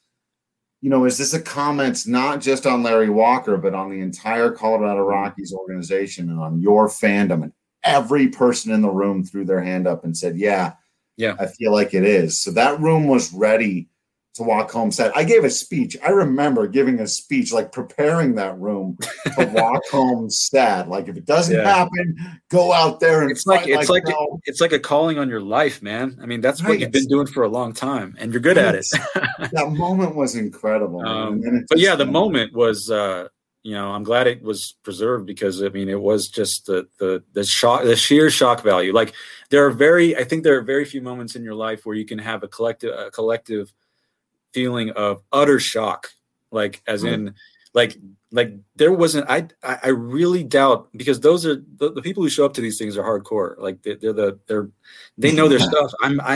a comment not just on Larry Walker, but on the entire Colorado Rockies organization and on your fandom? And every person in the room threw their hand up and said, yeah, I feel like it is. So that room was ready to walk home sad. I gave a speech. I remember giving a speech, like preparing that room to walk home sad. Like, if it doesn't happen, go out there and it's like a calling on your life, man. I mean, that's what you've been doing for a long time, and you're good at it. That moment was incredible. The moment was, I'm glad it was preserved, because I mean, it was just the shock, the sheer shock value. Like, there are very few moments in your life where you can have a collective feeling of utter shock, like as in like there wasn't, I really doubt, because those are the people who show up to these things are hardcore. Like they know their stuff.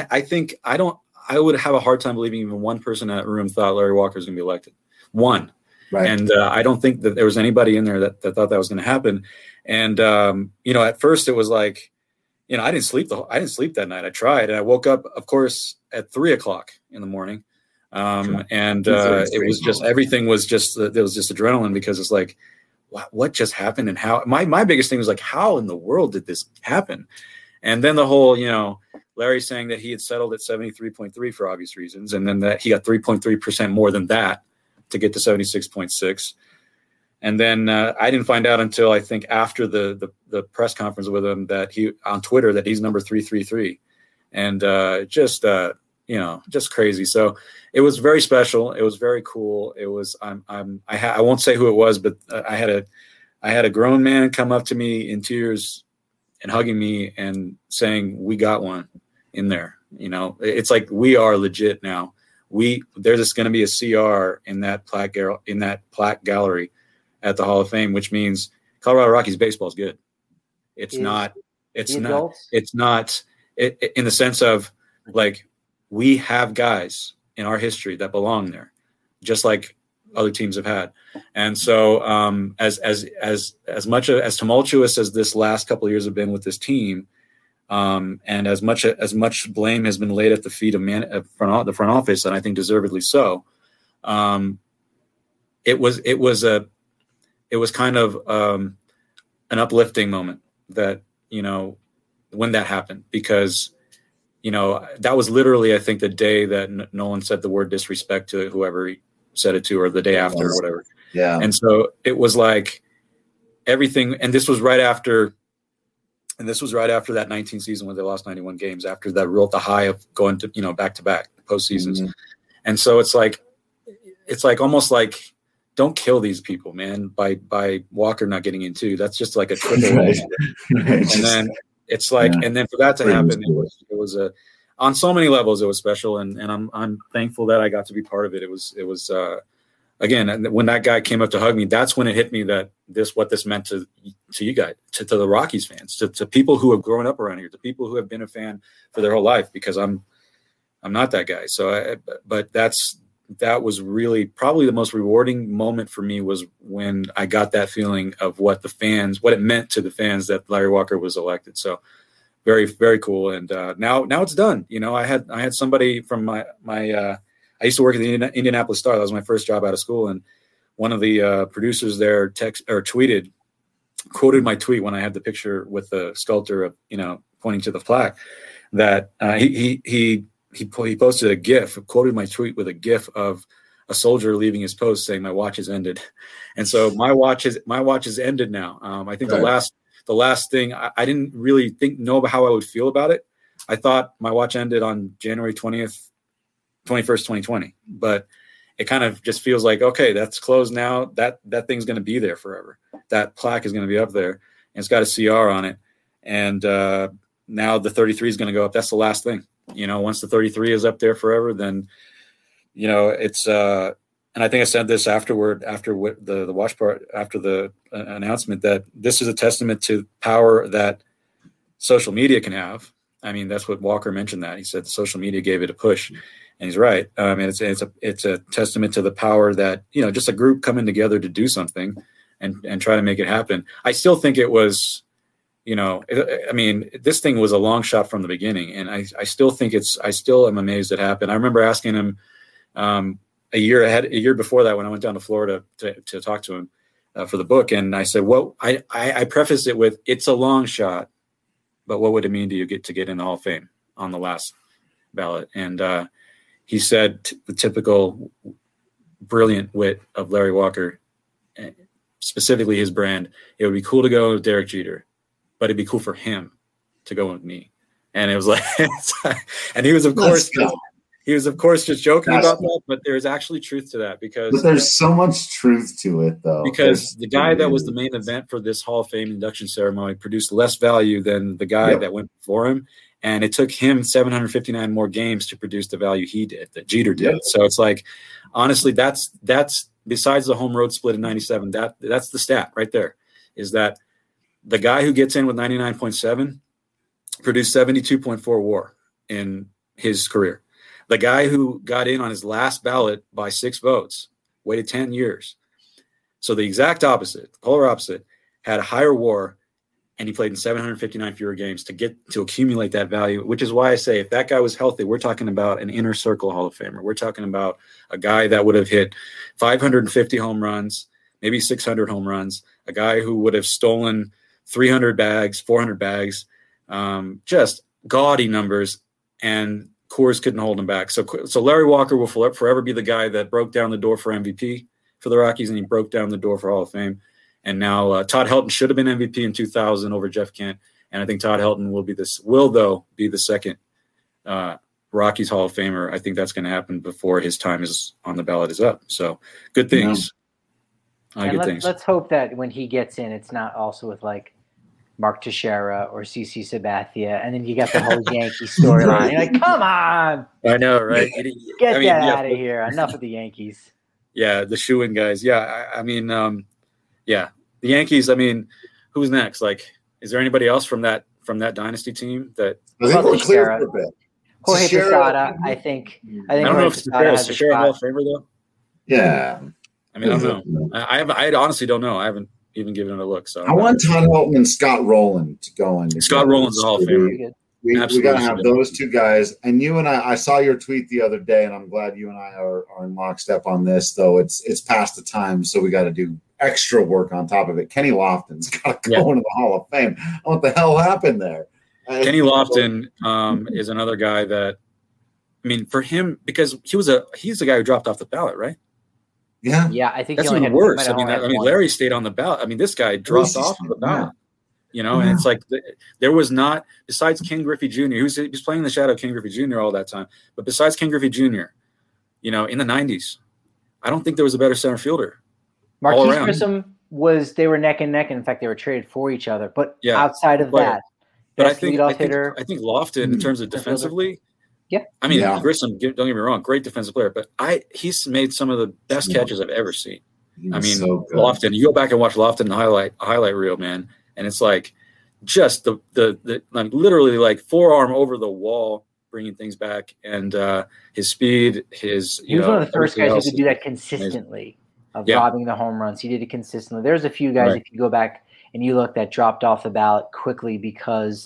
I would have a hard time believing even one person in that room thought Larry Walker was going to be elected. One. Right. And I don't think that there was anybody in there that thought that was going to happen. And at first it was like, I didn't sleep that night. I tried, and I woke up, of course, at 3:00 in the morning. It was just, everything was just, there was just adrenaline, because it's like, what just happened? And how, my biggest thing was like, how in the world did this happen? And then the whole, Larry saying that he had settled at 73.3 for obvious reasons. And then that he got 3.3% more than that to get to 76.6. And then I didn't find out until I think after the press conference with him that he on Twitter that he's number 333, and just crazy. So it was very special. It was very cool. It was I won't say who it was, but I had a grown man come up to me in tears and hugging me and saying, "We got one in there." It's like we are legit now. There's just going to be a CR in that plaque gallery at the Hall of Fame, which means Colorado Rockies baseball is good. It's not in the sense of like we have guys in our history that belong there, just like other teams have had. And so as much as tumultuous as this last couple of years have been with this team, and as much blame has been laid at the feet of the front office, and I think deservedly so, it was kind of an uplifting moment that, when that happened, because, that was literally, I think, the day that Nolan said the word disrespect to whoever he said it to, or the day after or whatever. Yeah. And so it was like everything. And this was right after that 19 season when they lost 91 games, after the high of going to, back-to-back postseasons. Mm-hmm. And so it's like almost like, don't kill these people, man, by Walker not getting in too. That's just like a triple. Right. And then it's like, and then for that to happen, it was on so many levels, it was special. And I'm thankful that I got to be part of it. It was again, when that guy came up to hug me, that's when it hit me that what this meant to you guys, to the Rockies fans, to people who have grown up around here, to people who have been a fan for their whole life, because I'm not that guy. So, but that was really probably the most rewarding moment for me, was when I got that feeling of what it meant to the fans that Larry Walker was elected. So very, very cool. And now it's done. I had somebody from my I used to work at the Indianapolis Star. That was my first job out of school. And one of the producers there quoted my tweet when I had the picture with the sculptor of, pointing to the plaque, that he posted a GIF, quoted my tweet with a GIF of a soldier leaving his post saying, "My watch has ended." And so my watch has ended now. I think right. the last thing I didn't really know about how I would feel about it. I thought my watch ended on January 21st, 2020, but it kind of just feels like, okay, that's closed now. That thing's going to be there forever. That plaque is going to be up there, and it's got a CR on it. And now the 33 is going to go up. That's the last thing. Once the 33 is up there forever, then, it's, and I think I said this afterward, after the watch part, after the announcement, that this is a testament to power that social media can have. I mean, that's what Walker mentioned, that he said social media gave it a push, and he's right. And it's a testament to the power that, just a group coming together to do something and try to make it happen. I still think it was, this thing was a long shot from the beginning, and I still think I still am amazed it happened. I remember asking him a year before that, when I went down to Florida to talk to him for the book. And I said, I prefaced it with, it's a long shot, but what would it mean to you to get in the Hall of Fame on the last ballot? And he said, the typical brilliant wit of Larry Walker, specifically his brand, it would be cool to go with Derek Jeter, but it'd be cool for him to go with me. And it was like, and he was of course just joking about that, but there's actually truth to that, because there's so much truth to it, though. Because the guy that was the main event for this Hall of Fame induction ceremony produced less value than the guy that went before him. And it took him 759 more games to produce the value he did, that Jeter did. Yep. So it's like, honestly, that's besides the home road split in 97, that's the stat right there, is that the guy who gets in with 99.7 produced 72.4 WAR in his career. The guy who got in on his last ballot by 6 votes waited 10 years. So the exact opposite, the polar opposite, had a higher WAR, and he played in 759 fewer games to accumulate that value, which is why I say, if that guy was healthy, we're talking about an inner circle Hall of Famer. We're talking about a guy that would have hit 550 home runs, maybe 600 home runs, a guy who would have stolen 300 bags, 400 bags, just gaudy numbers, and Coors couldn't hold him back. So Larry Walker will forever be the guy that broke down the door for MVP for the Rockies, and he broke down the door for Hall of Fame. And now Todd Helton should have been MVP in 2000 over Jeff Kent, and I think Todd Helton will be the second Rockies Hall of Famer. I think that's going to happen before his time is on the ballot is up. So good things. Let's hope that when he gets in, it's not also with like Mark Teixeira or CC Sabathia, and then you got the whole Yankee storyline. You're like, come on! I know, right? Get that out of here. Enough of the Yankees. Yeah, the shoe-in guys. Yeah, the Yankees. I mean, who's next? Like, is there anybody else from that dynasty team that? I think we're clear for a bit. Jorge Posada, I think. I don't know if Teixeira Hall of Famer though. Yeah. I mean, I don't know. I honestly don't know. I haven't even given it a look. So I want Todd Helton and Scott Rowland to go in. Scott Rowland's a Hall of Famer. We got to have those two guys. And you and I saw your tweet the other day, and I'm glad you and I are in lockstep on this, though it's past the time, so we got to do extra work on top of it. Kenny Lofton's got to go into the Hall of Fame. What the hell happened there? Kenny Lofton is another guy that, I mean, for him, because he's the guy who dropped off the ballot, right? Yeah. Yeah, I think that's even worse. I mean, Larry stayed on the ballot. I mean, this guy dropped off the ballot. You know, and it's like there was not, besides Ken Griffey Jr., he was playing in the shadow of Ken Griffey Jr. all that time, but besides Ken Griffey Jr., you know, in the 90s, I don't think there was a better center fielder. Marquise Grissom they were neck and neck, and in fact, they were traded for each other. But outside of that, but I think Lofton, in terms of defensively, I mean, Grissom, don't get me wrong, great defensive player, but he's made some of the best catches I've ever seen. I mean, Lofton, you go back and watch Lofton highlight reel, man. And it's like just the like literally like forearm over the wall, bringing things back, and his speed, he was one of the first guys who could do that consistently robbing the home runs. He did it consistently. There's a few guys if you go back and you look that dropped off the ballot quickly because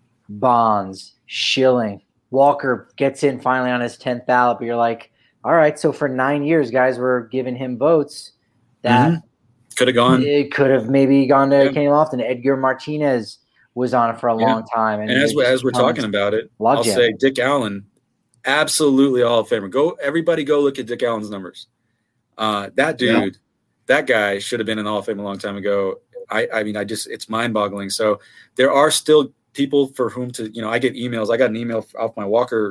Bonds, Schilling, Walker gets in finally on his 10th ballot, but you're like, all right, so for 9 years, guys were giving him votes that. Could have gone. It could have maybe gone to Kenny Lofton. Edgar Martinez was on it for a long time. And as we're talking about it, I'll say Dick Allen, absolutely Hall of Famer. Everybody go look at Dick Allen's numbers. That dude, that guy should have been in the Hall of Fame a long time ago. I mean, it's mind-boggling. So there are still people for whom to, you know, I get emails. I got an email off my Walker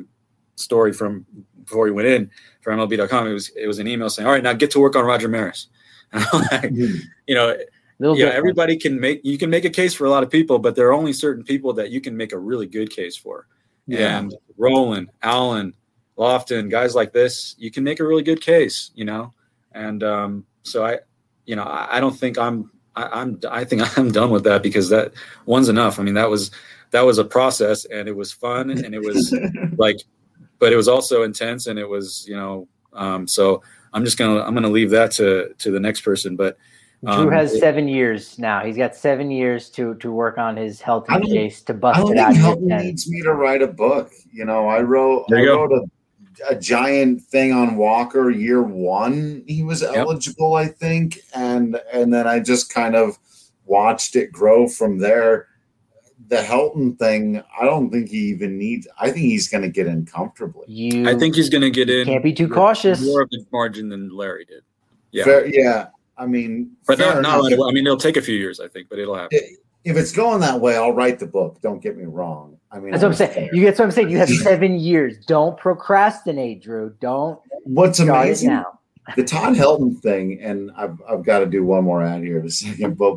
story from before he went in for MLB.com. It was an email saying, all right, now get to work on Roger Maris. You know, everybody can make a case for a lot of people, but there are only certain people that you can make a really good case for. And Rowland, Allen, Lofton, guys like this, you can make a really good case, you know. And so I don't think I think I'm done with that, because that one's enough. I mean, that was a process, and it was fun, and it was but it was also intense, and it was, you know, so I'm gonna leave that to the next person. But Drew has 7 years now. He's got 7 years to work on his health case to bust it out. I don't think Helton needs me to write a book. You know, I wrote a giant thing on Walker year one. He was eligible, I think, and then I just kind of watched it grow from there. The Helton thing, I don't think he even needs. I think he's going to get in comfortably. I think he's going to get in. Can't be too cautious. More of a margin than Larry did. Yeah. I mean, but not right away. I mean, it'll take a few years, I think, but it'll happen. If it's going that way, I'll write the book. Don't get me wrong. I mean, that's what I'm saying. That's what I'm saying. You have 7 years. Don't procrastinate, Drew. Don't. What's amazing now? The Todd Helton thing, and I've got to do one more ad here in a second. But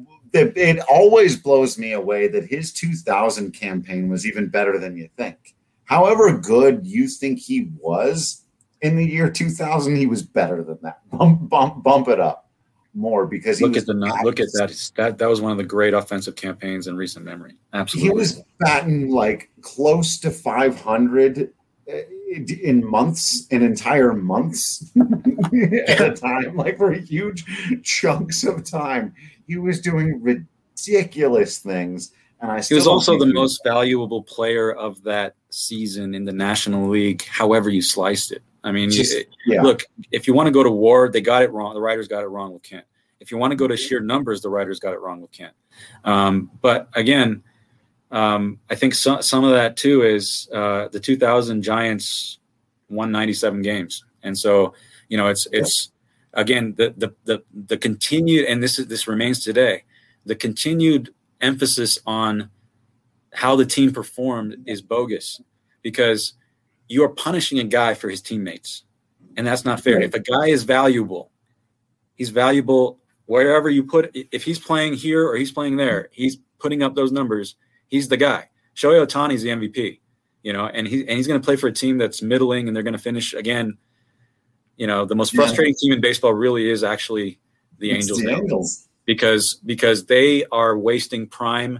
it always blows me away that his 2000 campaign was even better than you think. However good you think he was in the year 2000, he was better than that. Bump it up more, because look at that. That was one of the great offensive campaigns in recent memory. Absolutely, he was batting like close to 500 in entire months at a time, like for huge chunks of time. He was doing ridiculous things, and he was also the most valuable player of that season in the National League. However you sliced it, I mean, look, if you want to go to war, they got it wrong. The writers got it wrong with Kent. If you want to go to sheer numbers, the writers got it wrong with Kent. But again, I think some of that too is the 2000 Giants won 97 games, and so you know it's again, the continued, and this remains today, the continued emphasis on how the team performed is bogus, because you are punishing a guy for his teammates, and that's not fair. Right. If a guy is valuable, he's valuable wherever you put. If he's playing here or he's playing there, he's putting up those numbers. He's the guy. Shohei Ohtani's the MVP, and he's going to play for a team that's middling, and they're going to finish again. The most frustrating team in baseball really is actually the Angels. The Angels. Because they are wasting prime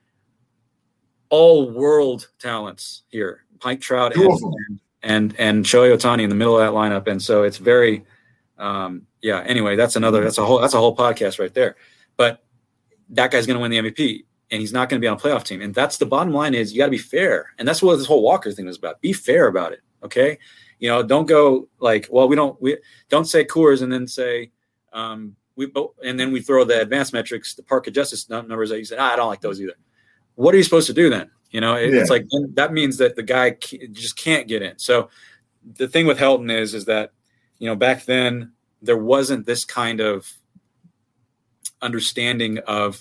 all world talents here. Mike Trout and Shohei Ohtani in the middle of that lineup. And so it's very anyway, that's a whole podcast right there. But that guy's going to win the MVP, and he's not going to be on a playoff team. And that's the bottom line is you got to be fair. And that's what this whole Walker thing is about. Be fair about it. Okay. Don't go like, well, we don't say Coors and then say, and then we throw the advanced metrics, the Park Justice numbers that you said, I don't like those either. What are you supposed to do then? It's like, that means that the guy just can't get in. So the thing with Helton is that, back then there wasn't this kind of understanding of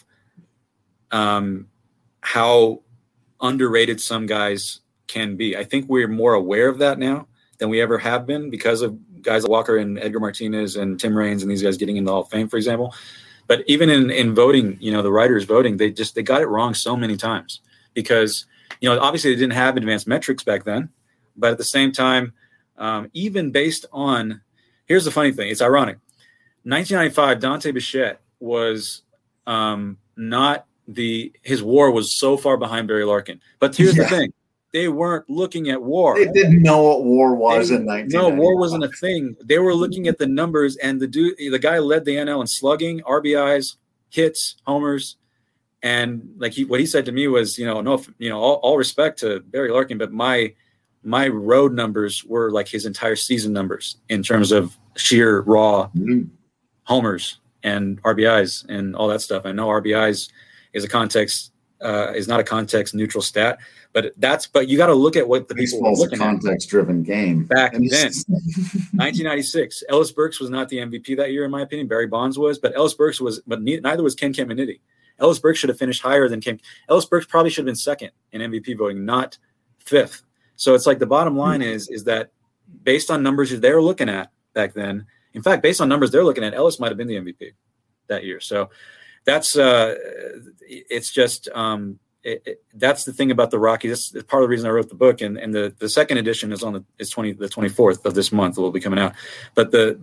how underrated some guys can be. I think we're more aware of that now than we ever have been because of guys like Walker and Edgar Martinez and Tim Raines and these guys getting into the Hall of Fame, for example. But even in voting, the writers voting, they got it wrong so many times because, obviously they didn't have advanced metrics back then. But at the same time, even based on – here's the funny thing. It's ironic. 1995, Dante Bichette was not the – his WAR was so far behind Barry Larkin. But here's the thing. They weren't looking at WAR. They didn't know what WAR was in 1995. No, WAR wasn't a thing. They were looking at the numbers, and the guy led the NL in slugging, RBIs, hits, homers, and what he said to me was, all respect to Barry Larkin, but my road numbers were like his entire season numbers in terms of sheer raw homers and RBIs and all that stuff. I know RBIs is not a context neutral stat. But you got to look at what the people were looking at. Context-driven game. Back then, 1996, Ellis Burks was not the MVP that year, in my opinion. Barry Bonds was, but neither was Ken Caminiti. Ellis Burks should have finished higher than Ken. Ellis Burks probably should have been second in MVP voting, not fifth. So it's like the bottom line is that based on numbers they were looking at back then, in fact, based on numbers they're looking at, Ellis might have been the MVP that year. So that's it's just that's the thing about the Rockies. That's part of the reason I wrote the book, and the second edition is the 24th of this month. It will be coming out. But the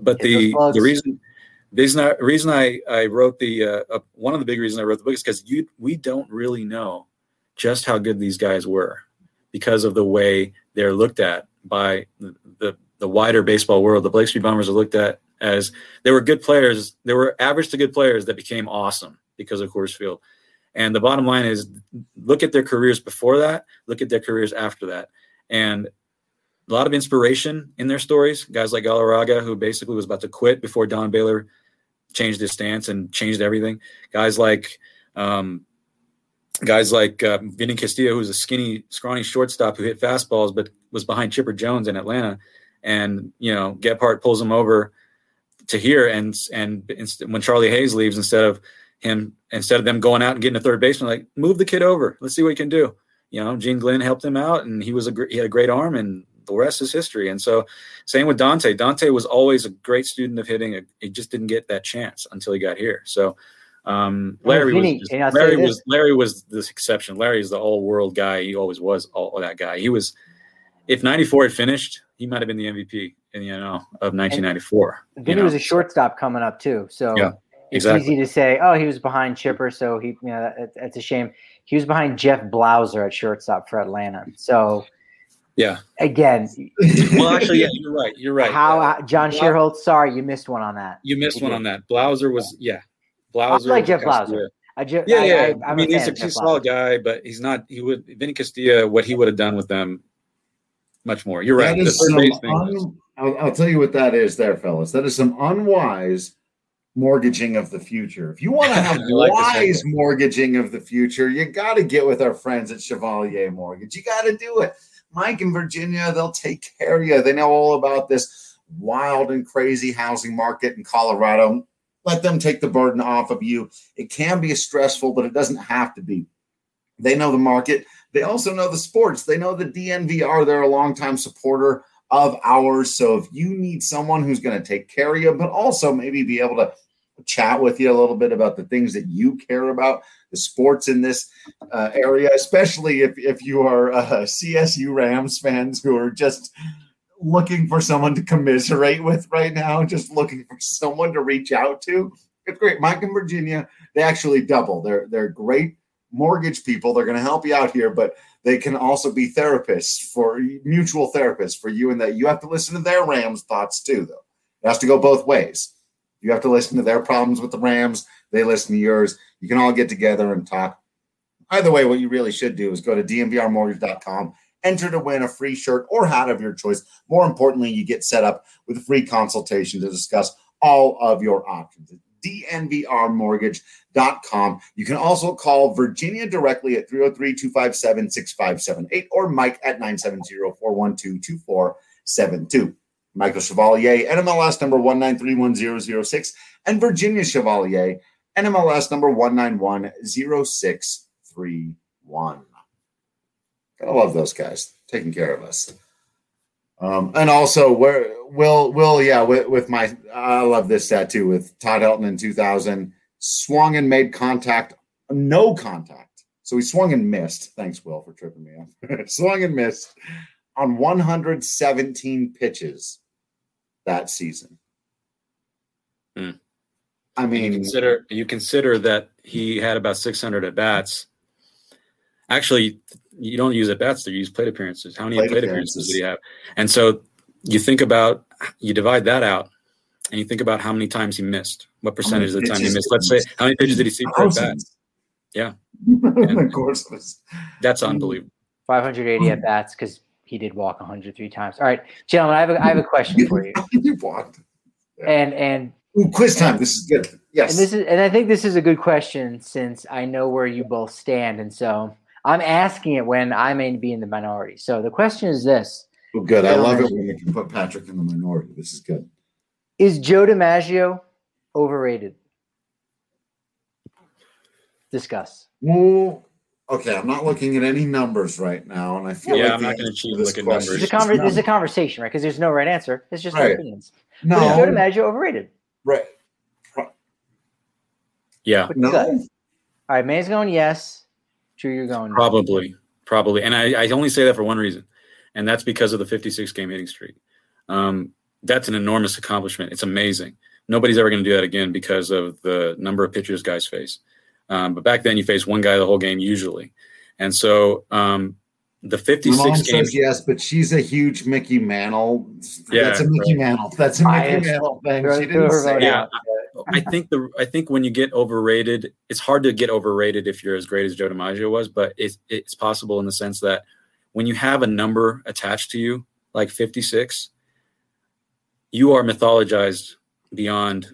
reason I wrote one of the big reasons I wrote the book is because we don't really know just how good these guys were because of the way they're looked at by the wider baseball world. The Blake Street Bombers are looked at as they were good players. They were average to good players that became awesome because of Coors Field. And the bottom line is look at their careers before that, look at their careers after that. And a lot of inspiration in their stories. Guys like Galarraga, who basically was about to quit before Don Baylor changed his stance and changed everything. Guys like Vinny Castillo, who's a skinny, scrawny shortstop who hit fastballs but was behind Chipper Jones in Atlanta. And, Gephardt pulls him over to here. And when Charlie Hayes leaves, instead of them going out and getting a third baseman, like, move the kid over. Let's see what he can do. Gene Glenn helped him out, and he had a great arm, and the rest is history. And so same with Dante. Dante was always a great student of hitting. He just didn't get that chance until he got here. So Larry was this exception. Larry is the all-world guy. He always was that guy. He was, if 94 had finished, he might have been the MVP in the NL of 1994. Vinny was a shortstop coming up too. So yeah. It's easy to say, oh, he was behind Chipper, so that's a shame. He was behind Jeff Blauser at shortstop for Atlanta. So, yeah. Again. Well, actually, yeah, you're right. How John Sherholtz, sorry, you missed one on that. You missed one on that. Blauser was, Blauser. I like Jeff Blauser. I mean, he's a solid guy, but he's not. Vinny Castilla, what he would have done with them, much more. You're right. I'll tell you what that is, there, fellas. That is some unwise mortgaging of the future. If you want to have wise mortgaging of the future, you got to get with our friends at Chevalier Mortgage. You got to do it. Mike and Virginia, they'll take care of you. They know all about this wild and crazy housing market in Colorado. Let them take the burden off of you. It can be stressful, but it doesn't have to be. They know the market. They also know the sports. They know the DNVR. They're a longtime supporter of ours. So if you need someone who's going to take care of you, but also maybe be able to chat with you a little bit about the things that you care about, the sports in this area, especially if you are CSU Rams fans who are just looking for someone to commiserate with right now, just looking for someone to reach out to. It's great. Mike and Virginia, they actually double. They're great mortgage people. They're going to help you out here, but they can also be therapists, mutual therapists for you, and that you have to listen to their Rams thoughts too, though. It has to go both ways. You have to listen to their problems with the Rams. They listen to yours. You can all get together and talk. Either way, what you really should do is go to dnvrmortgage.com, enter to win a free shirt or hat of your choice. More importantly, you get set up with a free consultation to discuss all of your options. dnvrmortgage.com. You can also call Virginia directly at 303-257-6578 or Mike at 970-412-2472. Michael Chevalier, NMLS number 1931006, and Virginia Chevalier, NMLS number 1910631. I love those guys taking care of us. And also, with my, I love this tattoo with Todd Helton in 2000, swung and made contact, no contact. So he swung and missed. Thanks, Will, for tripping me up. Swung and missed on 117 pitches that season. I mean, you consider that he had about 600 at bats. Actually, you don't use at bats; you use plate appearances. How many plate appearances did he have? And so you divide that out, and you think about how many times he missed. What percentage of the time he missed? Let's say, how many pitches did he see per at bat? Yeah, of course, that's unbelievable. 580 at bats because he did walk 103 times. All right, gentlemen, I have a question for you. You walked. And quiz time. This is good. Yes. And I think this is a good question since I know where you both stand, and so I'm asking it when I may be in the minority. So the question is this. Oh, good. I love it when you can put Patrick in the minority. This is good. Is Joe DiMaggio overrated? Discuss. Well, okay, I'm not looking at any numbers right now, and I feel like I'm not going to look at numbers. It's a conversation, right? Because there's no right answer. It's just opinions. No. But is Joe DiMaggio overrated? Right. Yeah. No. All right, May's going yes. Drew, you're going probably. And I only say that for one reason, and that's because of the 56-game hitting streak. That's an enormous accomplishment. It's amazing. Nobody's ever going to do that again because of the number of pitchers guys face. But back then, you faced one guy the whole game usually. And so the 56 Mom games. says yes, but she's a huge Mickey Mantle. That's a Mickey Mantle. That's a Mickey Mantle thing. She didn't say that. I think when you get overrated, it's hard to get overrated if you're as great as Joe DiMaggio was, but it's possible in the sense that when you have a number attached to you, like 56, you are mythologized beyond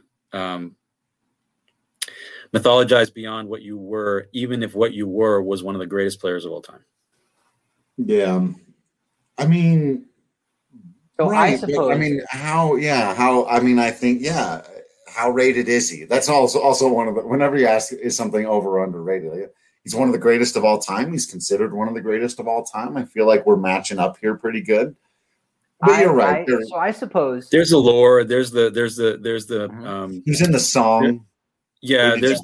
what you were, even if what you were was one of the greatest players of all time. Yeah. I mean, so right, I suppose. I think, how rated is he? That's also one of the, whenever you ask, is something over or underrated? He's one of the greatest of all time. He's considered one of the greatest of all time. I feel like we're matching up here pretty good. But you're right. So I suppose there's the lore. There's the he's in the song. There's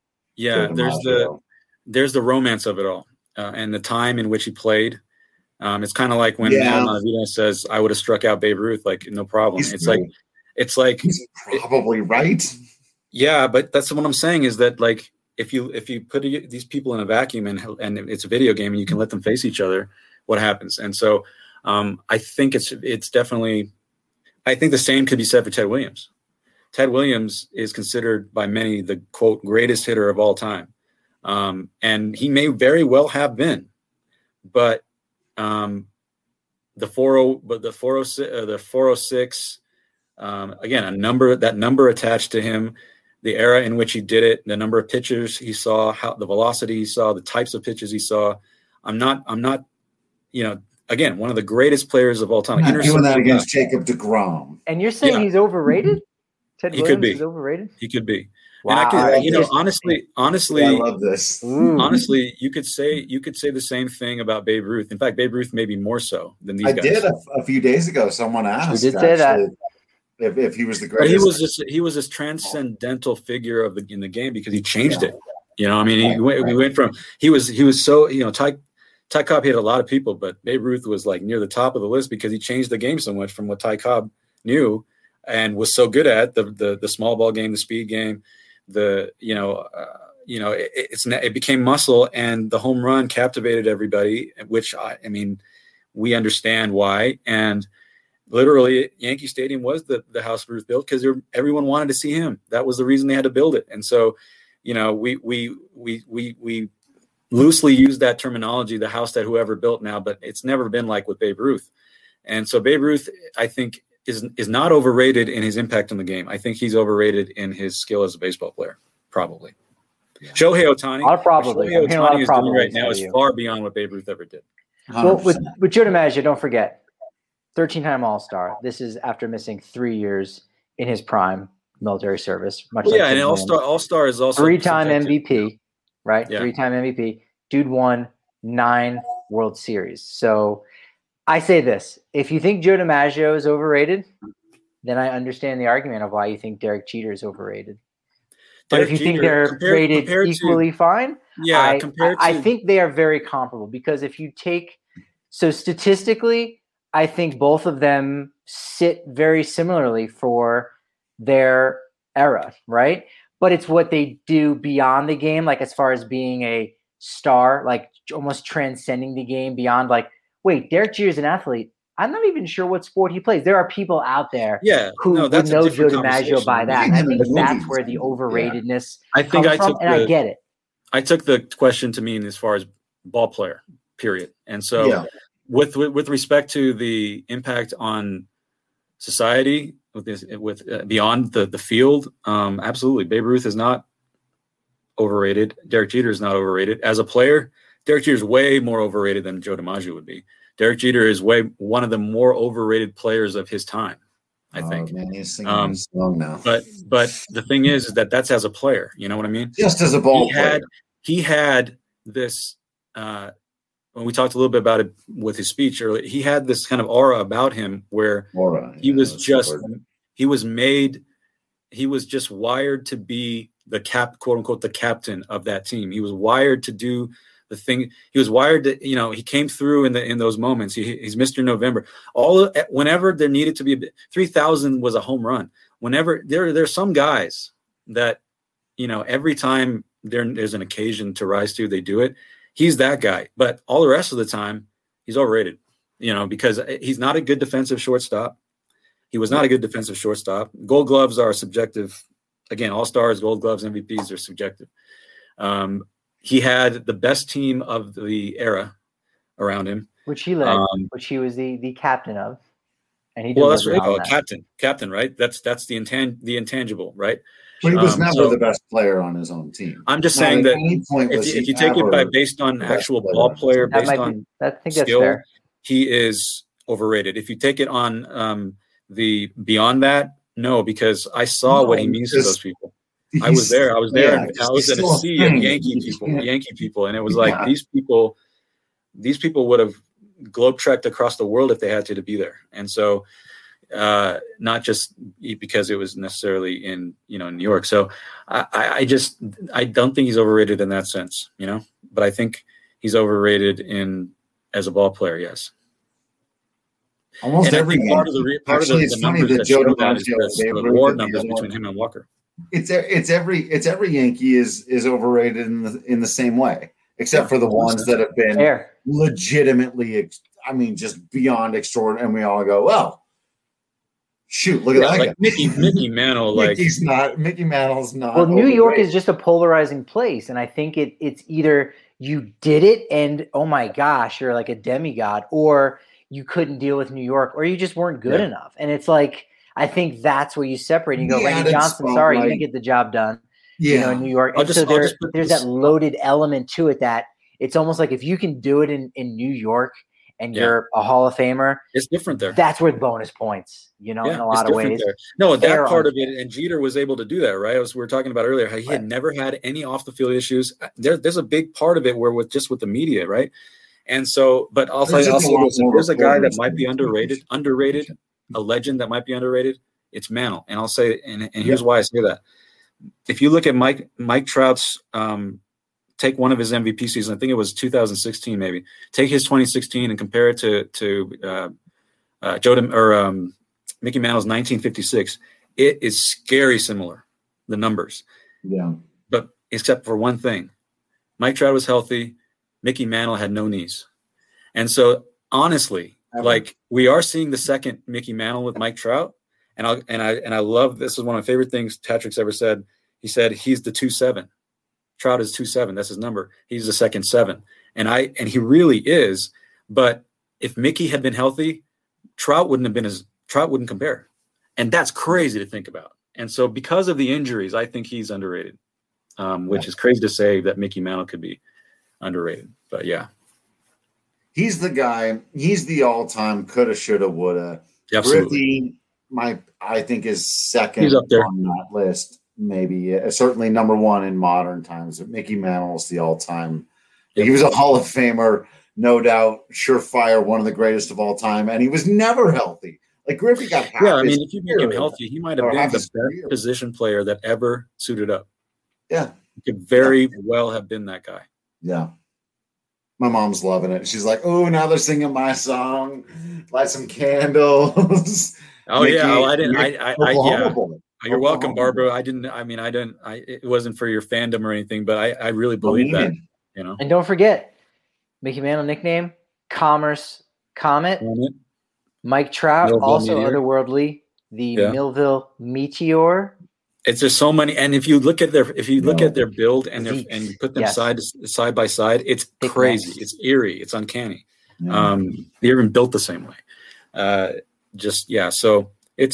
the romance of it all, and the time in which he played. It's kind of like when Adam Ottavino says, "I would have struck out Babe Ruth, like no problem." It's like he's probably right. Yeah, but that's what I'm saying is that like if you put these people in a vacuum and it's a video game and you can let them face each other, what happens? And so I think it's definitely. I think the same could be said for Ted Williams. Ted Williams is considered by many the quote greatest hitter of all time, and he may very well have been, but the 406, again, that number attached to him, the era in which he did it, the number of pitches he saw, how the velocity he saw, the types of pitches he saw. I'm not, again, one of the greatest players of all time. Not doing that against Jacob deGrom. And you're saying he's overrated? Ted Williams is overrated? He could be. Wow. And honestly, I love this. Honestly, you could say the same thing about Babe Ruth. In fact, Babe Ruth maybe more so than these guys. I did a few days ago. Someone asked. You did say that. If he was the greatest. But he was this transcendental figure in the game because he changed it. You know, I mean, we went from he was so, you know, Ty Cobb hit a lot of people, but Babe Ruth was like near the top of the list because he changed the game so much from what Ty Cobb knew and was so good at the small ball game, the speed game. It became muscle, and the home run captivated everybody, which I mean, we understand why. And literally, Yankee Stadium was the house Ruth built because everyone wanted to see him. That was the reason they had to build it. And so, you know, we loosely use that terminology, the house that whoever built now, but it's never been like with Babe Ruth. And so Babe Ruth, I think, is not overrated in his impact on the game. I think he's overrated in his skill as a baseball player, probably. Yeah. Shohei Ohtani, Shohei Ohtani is doing right now is far beyond what Babe Ruth ever did. 100%. Well, with Joe DiMaggio, don't forget, 13-time All-Star. This is after missing 3 years in his prime military service. And All-Star is also 3-time MVP, right? Yeah. 3-time MVP. Dude won 9 World Series. So I say this: if you think Joe DiMaggio is overrated, then I understand the argument of why you think Derek Jeter is overrated. But if you think they're rated equally fine, I think they are very comparable because if you take statistically, I think both of them sit very similarly for their era, right? But it's what they do beyond the game, like as far as being a star, like almost transcending the game beyond like, wait, Derek Jeter is an athlete. I'm not even sure what sport he plays. There are people out there who would know Joe DiMaggio by that. And I think that's where the overratedness comes from, and I get it. I took the question to mean as far as ball player, period. And so with respect to the impact on society with beyond the field, absolutely. Babe Ruth is not overrated. Derek Jeter is not overrated. As a player, Derek Jeter is way more overrated than Joe DiMaggio would be. Derek Jeter is one of the more overrated players of his time, I think. Man, he's singing his song now. But the thing is that that's as a player. You know what I mean? Just as a ball player. He had this when we talked a little bit about it with his speech earlier, he had this kind of aura about him where he was just wired to be the quote unquote, the captain of that team. He was wired to do the thing. He was wired to, you know, he came through in those moments. He's Mr. November. Whenever there needed to be 3,000 was a home run. Whenever there's some guys that, you know, every time there's an occasion to rise to, they do it. He's that guy. But all the rest of the time, he's overrated, you know, because he's not a good defensive shortstop. He was not a good defensive shortstop. Gold gloves are subjective. Again, all-stars, gold gloves, MVPs are subjective. He had the best team of the era around him, which he led, which he was the captain of, and he. Well, that's what they call it, captain, right? That's the intangible, right? But he was never the best player on his own team. I'm just saying that if you take it based on actual ball player, based on skill, he is overrated. If you take it on the beyond that, no, because I saw what he means to those people. I was there. I was there. And I was in a sea of Yankee people. And it was like, these people would have globe-trekked across the world if they had to be there. And so, not just because it was necessarily in, you know, New York. So I don't think he's overrated in that sense, you know, but I think he's overrated as a ball player. Yes. Almost every part of the numbers that show that is the WAR numbers between him and Walker. It's every Yankee is overrated in the same way, except for the ones that have been legitimately, I mean, just beyond extraordinary. And we all go, well, shoot, look at that like guy. Mickey Mantle. Mickey Mantle's not. Well, New York is just a polarizing place, and I think it's either you did it and oh my gosh, you're like a demigod, or you couldn't deal with New York, or you just weren't good enough. And it's like, I think that's where you separate. You go, Randy Johnson, sorry, you didn't get the job done. You know, in New York. And so there's that loaded element to it that it's almost like if you can do it in New York and you're a Hall of Famer, it's different there. That's worth bonus points, in a lot of ways. There. No, that part of it, and Jeter was able to do that, right? We were talking about earlier, how he had never had any off the field issues. There's a big part of it where with the media, right? And so, but also there's a guy that might be underrated, a legend that might be underrated. It's Mantle, and I'll say, and here's why I say that. If you look at Mike Trout's, take one of his MVP seasons, I think it was 2016, maybe. Take his 2016 and compare it to Mickey Mantle's 1956. It is scary similar, the numbers. Yeah. But except for one thing, Mike Trout was healthy. Mickey Mantle had no knees, and so honestly, like we are seeing the second Mickey Mantle with Mike Trout, and I love this is one of my favorite things Patrick's ever said. He said he's the 2-7. Trout is 2-7. That's his number. He's the second 7. And he really is. But if Mickey had been healthy, Trout wouldn't compare. And that's crazy to think about. And so because of the injuries, I think he's underrated, which is crazy to say that Mickey Mantle could be underrated. But yeah. He's the guy. He's the all-time coulda, shoulda, woulda. Absolutely. Griffey, I think is second he's up there on that list. Maybe certainly number one in modern times. But Mickey Mantle is the all-time. He was a Hall of Famer, no doubt, surefire, one of the greatest of all time, and he was never healthy. Like Griffey got half. Yeah, I mean, if you make him healthy, he might have been the best position player that ever suited up. Yeah, he could very well have been that guy. Yeah. My mom's loving it. She's like, "Oh, now they're singing my song. Light some candles." Oh Mickey, yeah, well, I didn't. Yeah. You're welcome, Barbara. It wasn't for your fandom or anything, but I really believe that, And don't forget, Mickey Mantle nickname, Commerce Comet. Mike Trout, Millville also Meteor. Otherworldly, the Millville Meteor. It's just so many, and if you look at their build and you put them side by side, it's crazy. Next. It's eerie. It's uncanny. Yeah. They're even built the same way. So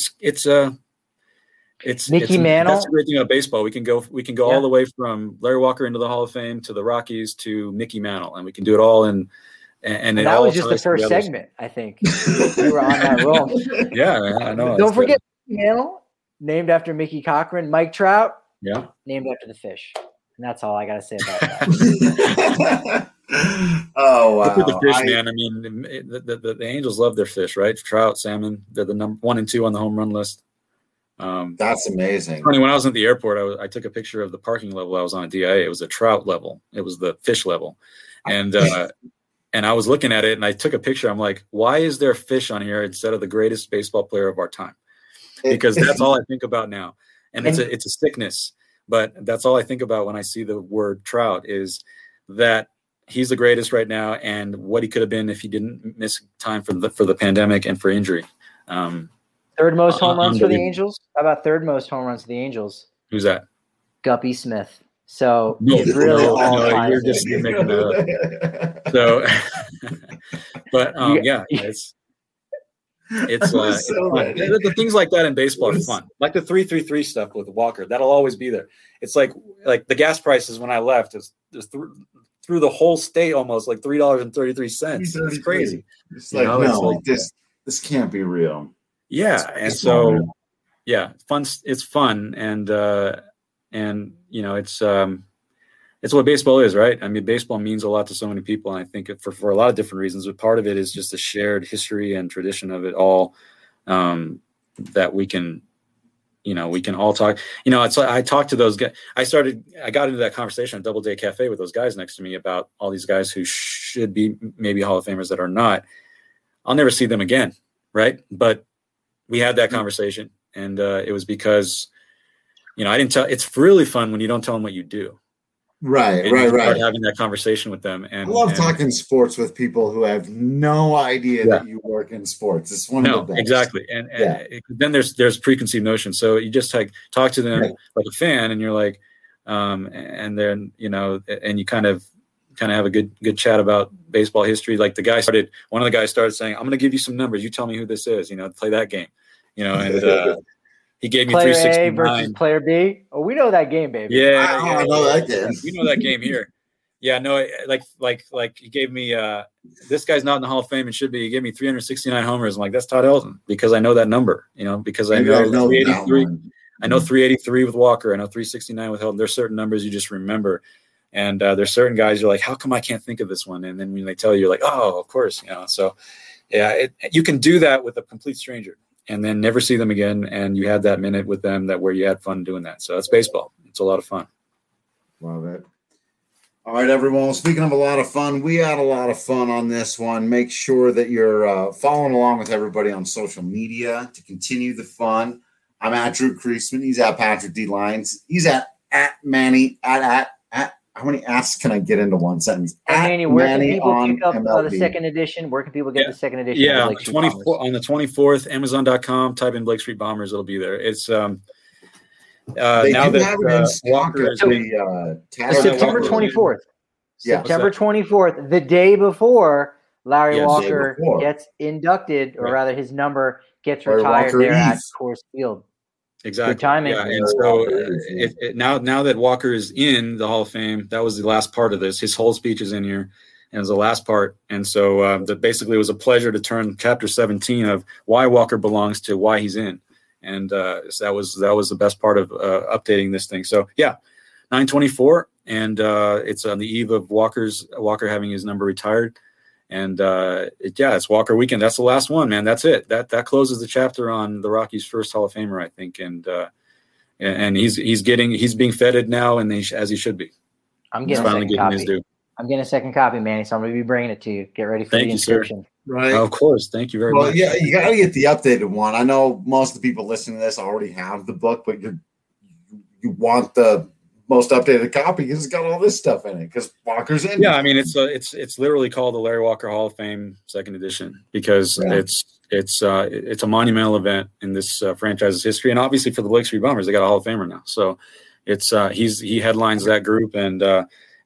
it's Mickey Mantle. That's the great thing about baseball. We can go all the way from Larry Walker into the Hall of Fame to the Rockies to Mickey Mantle, and we can do it all in. And that was just the first segment, I think. We were on that roll. Yeah, I know. Don't forget Mickey Mantle, named after Mickey Cochran. Mike Trout, named after the fish. And that's all I got to say about that. Oh, wow. Look at the fish, man. I mean, the Angels love their fish, right? Trout, salmon. They're the number 1 and 2 on the home run list. That's amazing. Funny, when I was at the airport, I took a picture of the parking level I was on at DIA. It was a trout level. It was the fish level. And I was looking at it and I took a picture. I'm like, why is there fish on here instead of the greatest baseball player of our time? Because that's all I think about now. And it's a sickness, but that's all I think about when I see the word Trout is that he's the greatest right now and what he could have been if he didn't miss time for the pandemic and for injury. Third most home runs for the Angels? How about third most home runs for the Angels? Who's that? Guppy Smith. So it's really you're just making that up. So, but it's the things like that in baseball are fun. Like the 3-3-3 stuff with Walker, that'll always be there. It's like the gas prices when I left is through the whole state almost like $3.33. It's crazy. It's like this can't be real. Yeah, and so fun. It's fun and it's what baseball is, right? I mean, baseball means a lot to so many people, and I think for a lot of different reasons. But part of it is just the shared history and tradition of it all that we can all talk. It's like I talked to those guys. I got into that conversation at Doubleday Cafe with those guys next to me about all these guys who should be maybe Hall of Famers that are not. I'll never see them again, right? But we had that conversation, and it was because. I didn't tell. It's really fun when you don't tell them what you do. Right. Having that conversation with them, and I love talking sports with people who have no idea that you work in sports. It's one of the best. Exactly. And then there's preconceived notions. So you just talk to them like a fan, and you're like, and then and you kind of have a good chat about baseball history. Like one of the guys started saying, "I'm going to give you some numbers. You tell me who this is. Play that game." And. He gave me player 369 A versus player B. Oh, we know that game, baby. Yeah, I know that game. We know that game here. Yeah, no, like he gave me this guy's not in the Hall of Fame and should be. He gave me 369 homers. I'm like, that's Todd Helton, because I know that number, because I know 383. I know 383 with Walker. I know 369 with Helton. There's certain numbers you just remember. And there's certain guys you're like, how come I can't think of this one? And then when they tell you, you're like, oh, of course, So yeah, you can do that with a complete stranger and then never see them again. And you had that minute with them where you had fun doing that. So that's baseball. It's a lot of fun. Love it. All right, everyone. Speaking of a lot of fun, we had a lot of fun on this one. Make sure that you're following along with everybody on social media to continue the fun. I'm at Drew Creasman. He's at Patrick D. Lyons. He's at Manny at how many asks can I get into one sentence? Manny, where can people pick up the second edition? Where can people get the second edition? Yeah, on the 24th, Amazon.com. Type in Blake Street Bombers. It'll be there. It's now that Walker is September 24th. Yeah, September 24th, the day before Larry Walker gets inducted, or rather his number gets retired there at Coors Field. Exactly. Good timing. Yeah, and so now that Walker is in the Hall of Fame, that was the last part of this. His whole speech is in here, and it was the last part. And so that basically it was a pleasure to turn chapter 17 of why Walker belongs to why he's in. And so that was the best part of updating this thing. So yeah, 9/24, and it's on the eve of Walker having his number retired. And it's Walker weekend. That's the last one, man. That's it. That closes the chapter on the Rockies' first Hall of Famer, I think. And he's being feted now, and as he should be. I'm getting his due. I'm getting a second copy, Manny. So I'm going to be bringing it to you. Get ready for the inscription. Right. Of course. Thank you very much. Yeah, you got to get the updated one. I know most of the people listening to this already have the book, but you want the most updated copy because it's got all this stuff in it because Walker's in. Yeah, I mean it's literally called the Larry Walker Hall of Fame second edition because it's a monumental event in this franchise's history, and obviously for the Blake Street Bombers, they got a Hall of Famer now. So it's he headlines that group, and now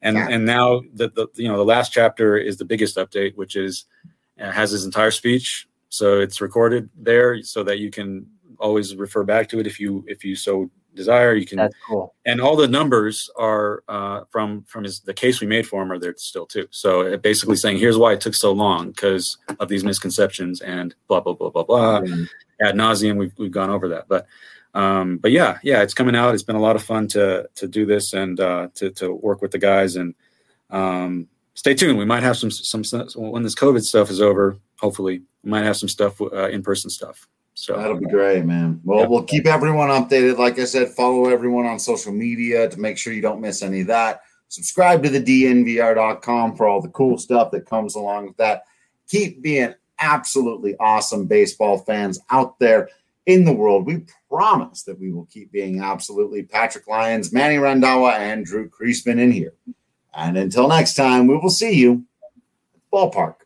the last chapter is the biggest update, which is has his entire speech, so it's recorded there so that you can always refer back to it if you so desire. You can. That's cool. And all the numbers are from the case we made for him are there still too. So it basically saying here's why it took so long because of these misconceptions and blah blah blah blah blah. Ad nauseum, we've gone over that, but yeah, it's coming out. It's been a lot of fun to do this and to work with the guys, and stay tuned. We might have some when this COVID stuff is over. Hopefully, we might have some stuff in-person stuff. So that'll be great, man. Well, we'll keep everyone updated. Like I said, follow everyone on social media to make sure you don't miss any of that. Subscribe to the DNVR.com for all the cool stuff that comes along with that. Keep being absolutely awesome baseball fans out there in the world. We promise that we will keep being absolutely Patrick Lyons, Manny Randhawa, and Drew Creasman in here. And until next time, we will see you at the ballpark.